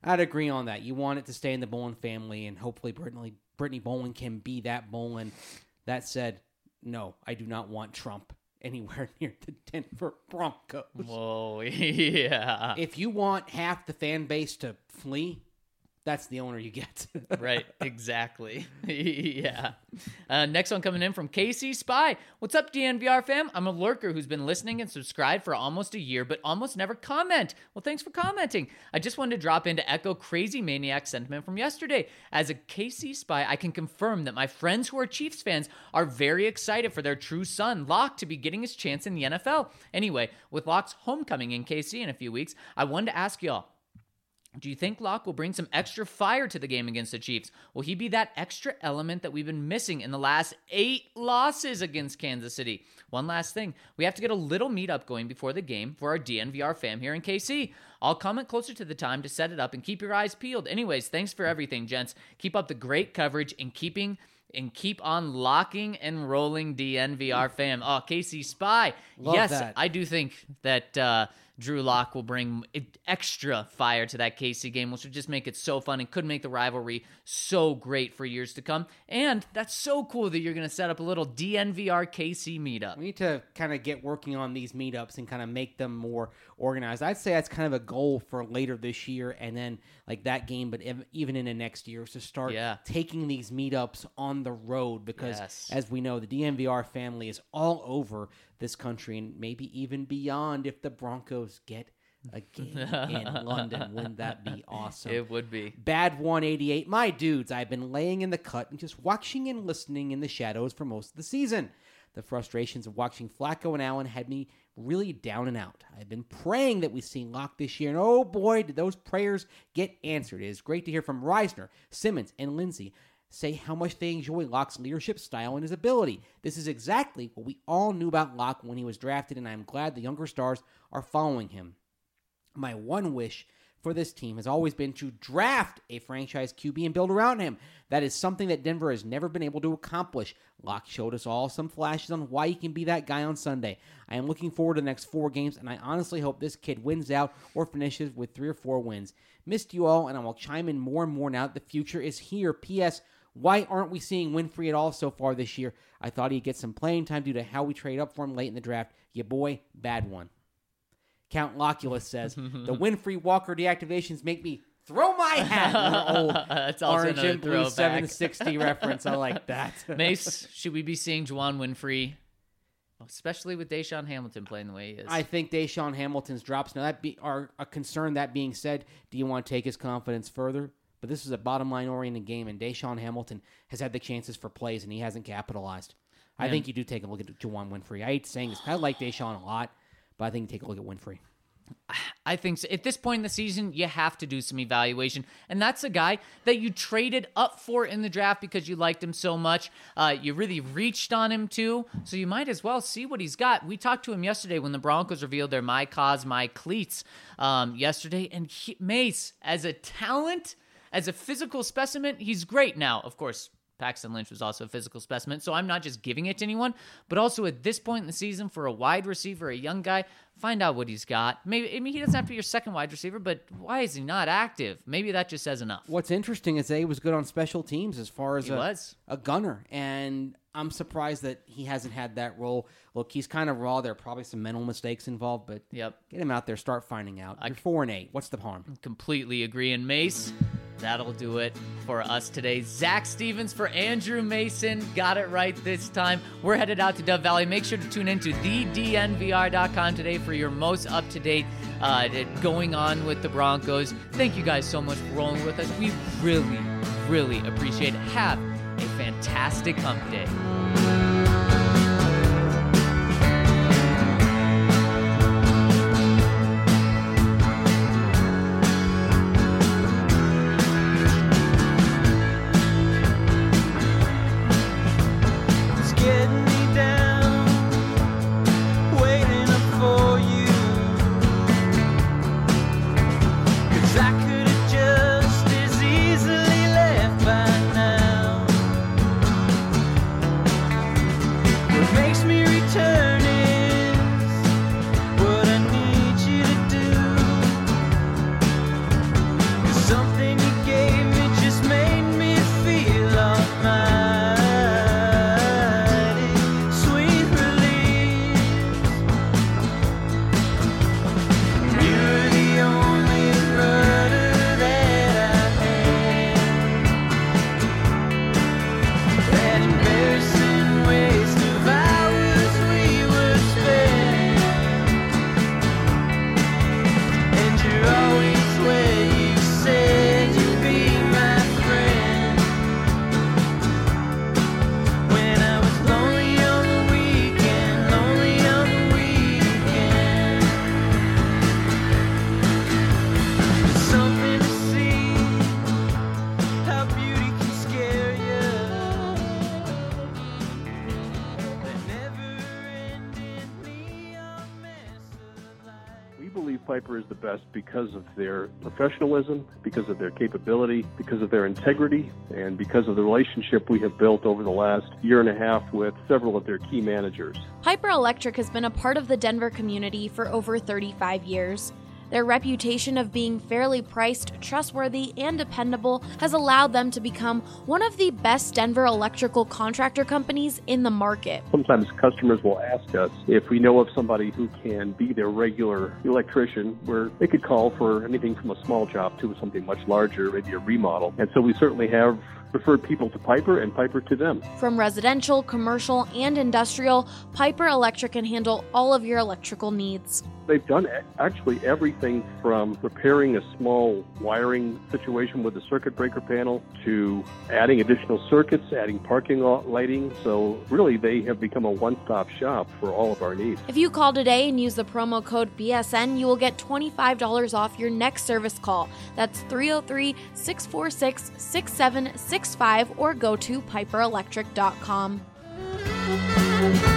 Speaker 3: I'd agree on that. You want it to stay in the Bolin family, and hopefully Brittany, Brittany Bolin can be that Bolin. That said, no, I do not want Trump anywhere near the Denver Broncos.
Speaker 1: Whoa, yeah.
Speaker 3: If you want half the fan base to flee, that's the owner you get.
Speaker 1: Right, exactly. Yeah. Uh, next one coming in from K C Spy. What's up, D N V R fam? I'm a lurker who's been listening and subscribed for almost a year, but almost never comment. Well, thanks for commenting. I just wanted to drop in to echo Crazy Maniac sentiment from yesterday. As a K C Spy, I can confirm that my friends who are Chiefs fans are very excited for their true son, Locke, to be getting his chance in the N F L. Anyway, with Locke's homecoming in K C in a few weeks, I wanted to ask y'all, do you think Locke will bring some extra fire to the game against the Chiefs? Will he be that extra element that we've been missing in the last eight losses against Kansas City? One last thing. We have to get a little meetup going before the game for our D N V R fam here in K C. I'll comment closer to the time to set it up and keep your eyes peeled. Anyways, thanks for everything, gents. Keep up the great coverage and keeping... and keep on locking and rolling, D N V R fam. Oh, K C Spy.
Speaker 3: Love
Speaker 1: yes,
Speaker 3: that.
Speaker 1: I do think that uh, Drew Lock will bring extra fire to that K C game, which would just make it so fun and could make the rivalry so great for years to come. And that's so cool that you're going to set up a little D N V R K C meetup.
Speaker 3: We need to kind of get working on these meetups and kind of make them more organized. I'd say that's kind of a goal for later this year and then like that game, but ev- even in the next year, is to start
Speaker 1: Yeah.
Speaker 3: taking these meetups on the road because,
Speaker 1: Yes.
Speaker 3: as we know, the D N V R family is all over this country and maybe even beyond if the Broncos get a game in London. Wouldn't that be awesome?
Speaker 1: It would be.
Speaker 3: Bad one eighty-eight. My dudes, I've been laying in the cut and just watching and listening in the shadows for most of the season. The frustrations of watching Flacco and Allen had me really down and out. I've been praying that we see Locke this year, and oh boy, did those prayers get answered. It is great to hear from Reisner, Simmons, and Lindsay say how much they enjoy Locke's leadership style and his ability. This is exactly what we all knew about Locke when he was drafted, and I'm glad the younger stars are following him. My one wish for this team has always been to draft a franchise Q B and build around him. That is something that Denver has never been able to accomplish. Locke showed us all some flashes on why he can be that guy on Sunday. I am looking forward to the next four games, and I honestly hope this kid wins out or finishes with three or four wins. Missed you all, and I will chime in more and more now that the future is here. P S. Why aren't we seeing Winfrey at all so far this year? I thought he'd get some playing time due to how we trade up for him late in the draft. Ya boy, bad one. Count Loculus says, the Winfrey Walker deactivations make me throw my hat. An old
Speaker 1: That's also
Speaker 3: orange
Speaker 1: another
Speaker 3: and blue
Speaker 1: throwback.
Speaker 3: seven sixty reference. I like that.
Speaker 1: Mace, should we be seeing Juwan Winfrey, especially with Deshaun Hamilton playing the way he is?
Speaker 3: I think Deshaun Hamilton's drops now that be are a concern. That being said, do you want to take his confidence further? But this is a bottom line oriented game, and Deshaun Hamilton has had the chances for plays, and he hasn't capitalized. I
Speaker 1: Man.
Speaker 3: think you do take a look at Juwan Winfrey. I hate saying this. I like Deshaun a lot, but I think you take a look at Winfrey.
Speaker 1: I think so. At this point in the season, you have to do some evaluation. And that's a guy that you traded up for in the draft because you liked him so much. Uh, you really reached on him too. So you might as well see what he's got. We talked to him yesterday when the Broncos revealed their My Cause, My Cleats um, yesterday. And he, Mace, as a talent, as a physical specimen, he's great. Now, of course, Paxton Lynch was also a physical specimen, so I'm not just giving it to anyone, but also at this point in the season for a wide receiver, a young guy, find out what he's got. Maybe I mean he doesn't have to be your second wide receiver, but why is he not active? Maybe that just says enough.
Speaker 3: What's interesting is that he was good on special teams as far as
Speaker 1: He
Speaker 3: a,
Speaker 1: was.
Speaker 3: a gunner, and I'm surprised that he hasn't had that role. Look, he's kind of raw. There are probably some mental mistakes involved, but
Speaker 1: Yep.
Speaker 3: get him out there, start finding out. You're four and eight. What's the harm?
Speaker 1: Completely agree. And Mace, that'll do it for us today. Zach Stevens for Andrew Mason. Got it right this time. We're headed out to Dove Valley. Make sure to tune into the D N V R dot com today for your most up-to-date uh, going on with the Broncos. Thank you guys so much for rolling with us. We really, really appreciate it. Have a fantastic hump day.
Speaker 2: It's getting me down, waiting up for you. 'Cause I could have just as easily left by now.
Speaker 4: the best because of their professionalism, because of their capability, because of their integrity, and because of the relationship we have built over the last year and a half with several of their key managers.
Speaker 5: Piper Electric has been a part of the Denver community for over thirty-five years. Their reputation of being fairly priced, trustworthy, and dependable has allowed them to become one of the best Denver electrical contractor companies in the market.
Speaker 4: Sometimes customers will ask us if we know of somebody who can be their regular electrician, where they could call for anything from a small job to something much larger, maybe a remodel. And so we certainly have referred people to Piper and Piper to them.
Speaker 5: From residential, commercial, and industrial, Piper Electric can handle all of your electrical needs.
Speaker 4: They've done actually everything from repairing a small wiring situation with a circuit breaker panel to adding additional circuits, adding parking lot lighting. So really, they have become a one-stop shop for all of our needs.
Speaker 5: If you call today and use the promo code B S N, you will get twenty-five dollars off your next service call. That's three oh three, six four six, six seven six five or go to piper electric dot com.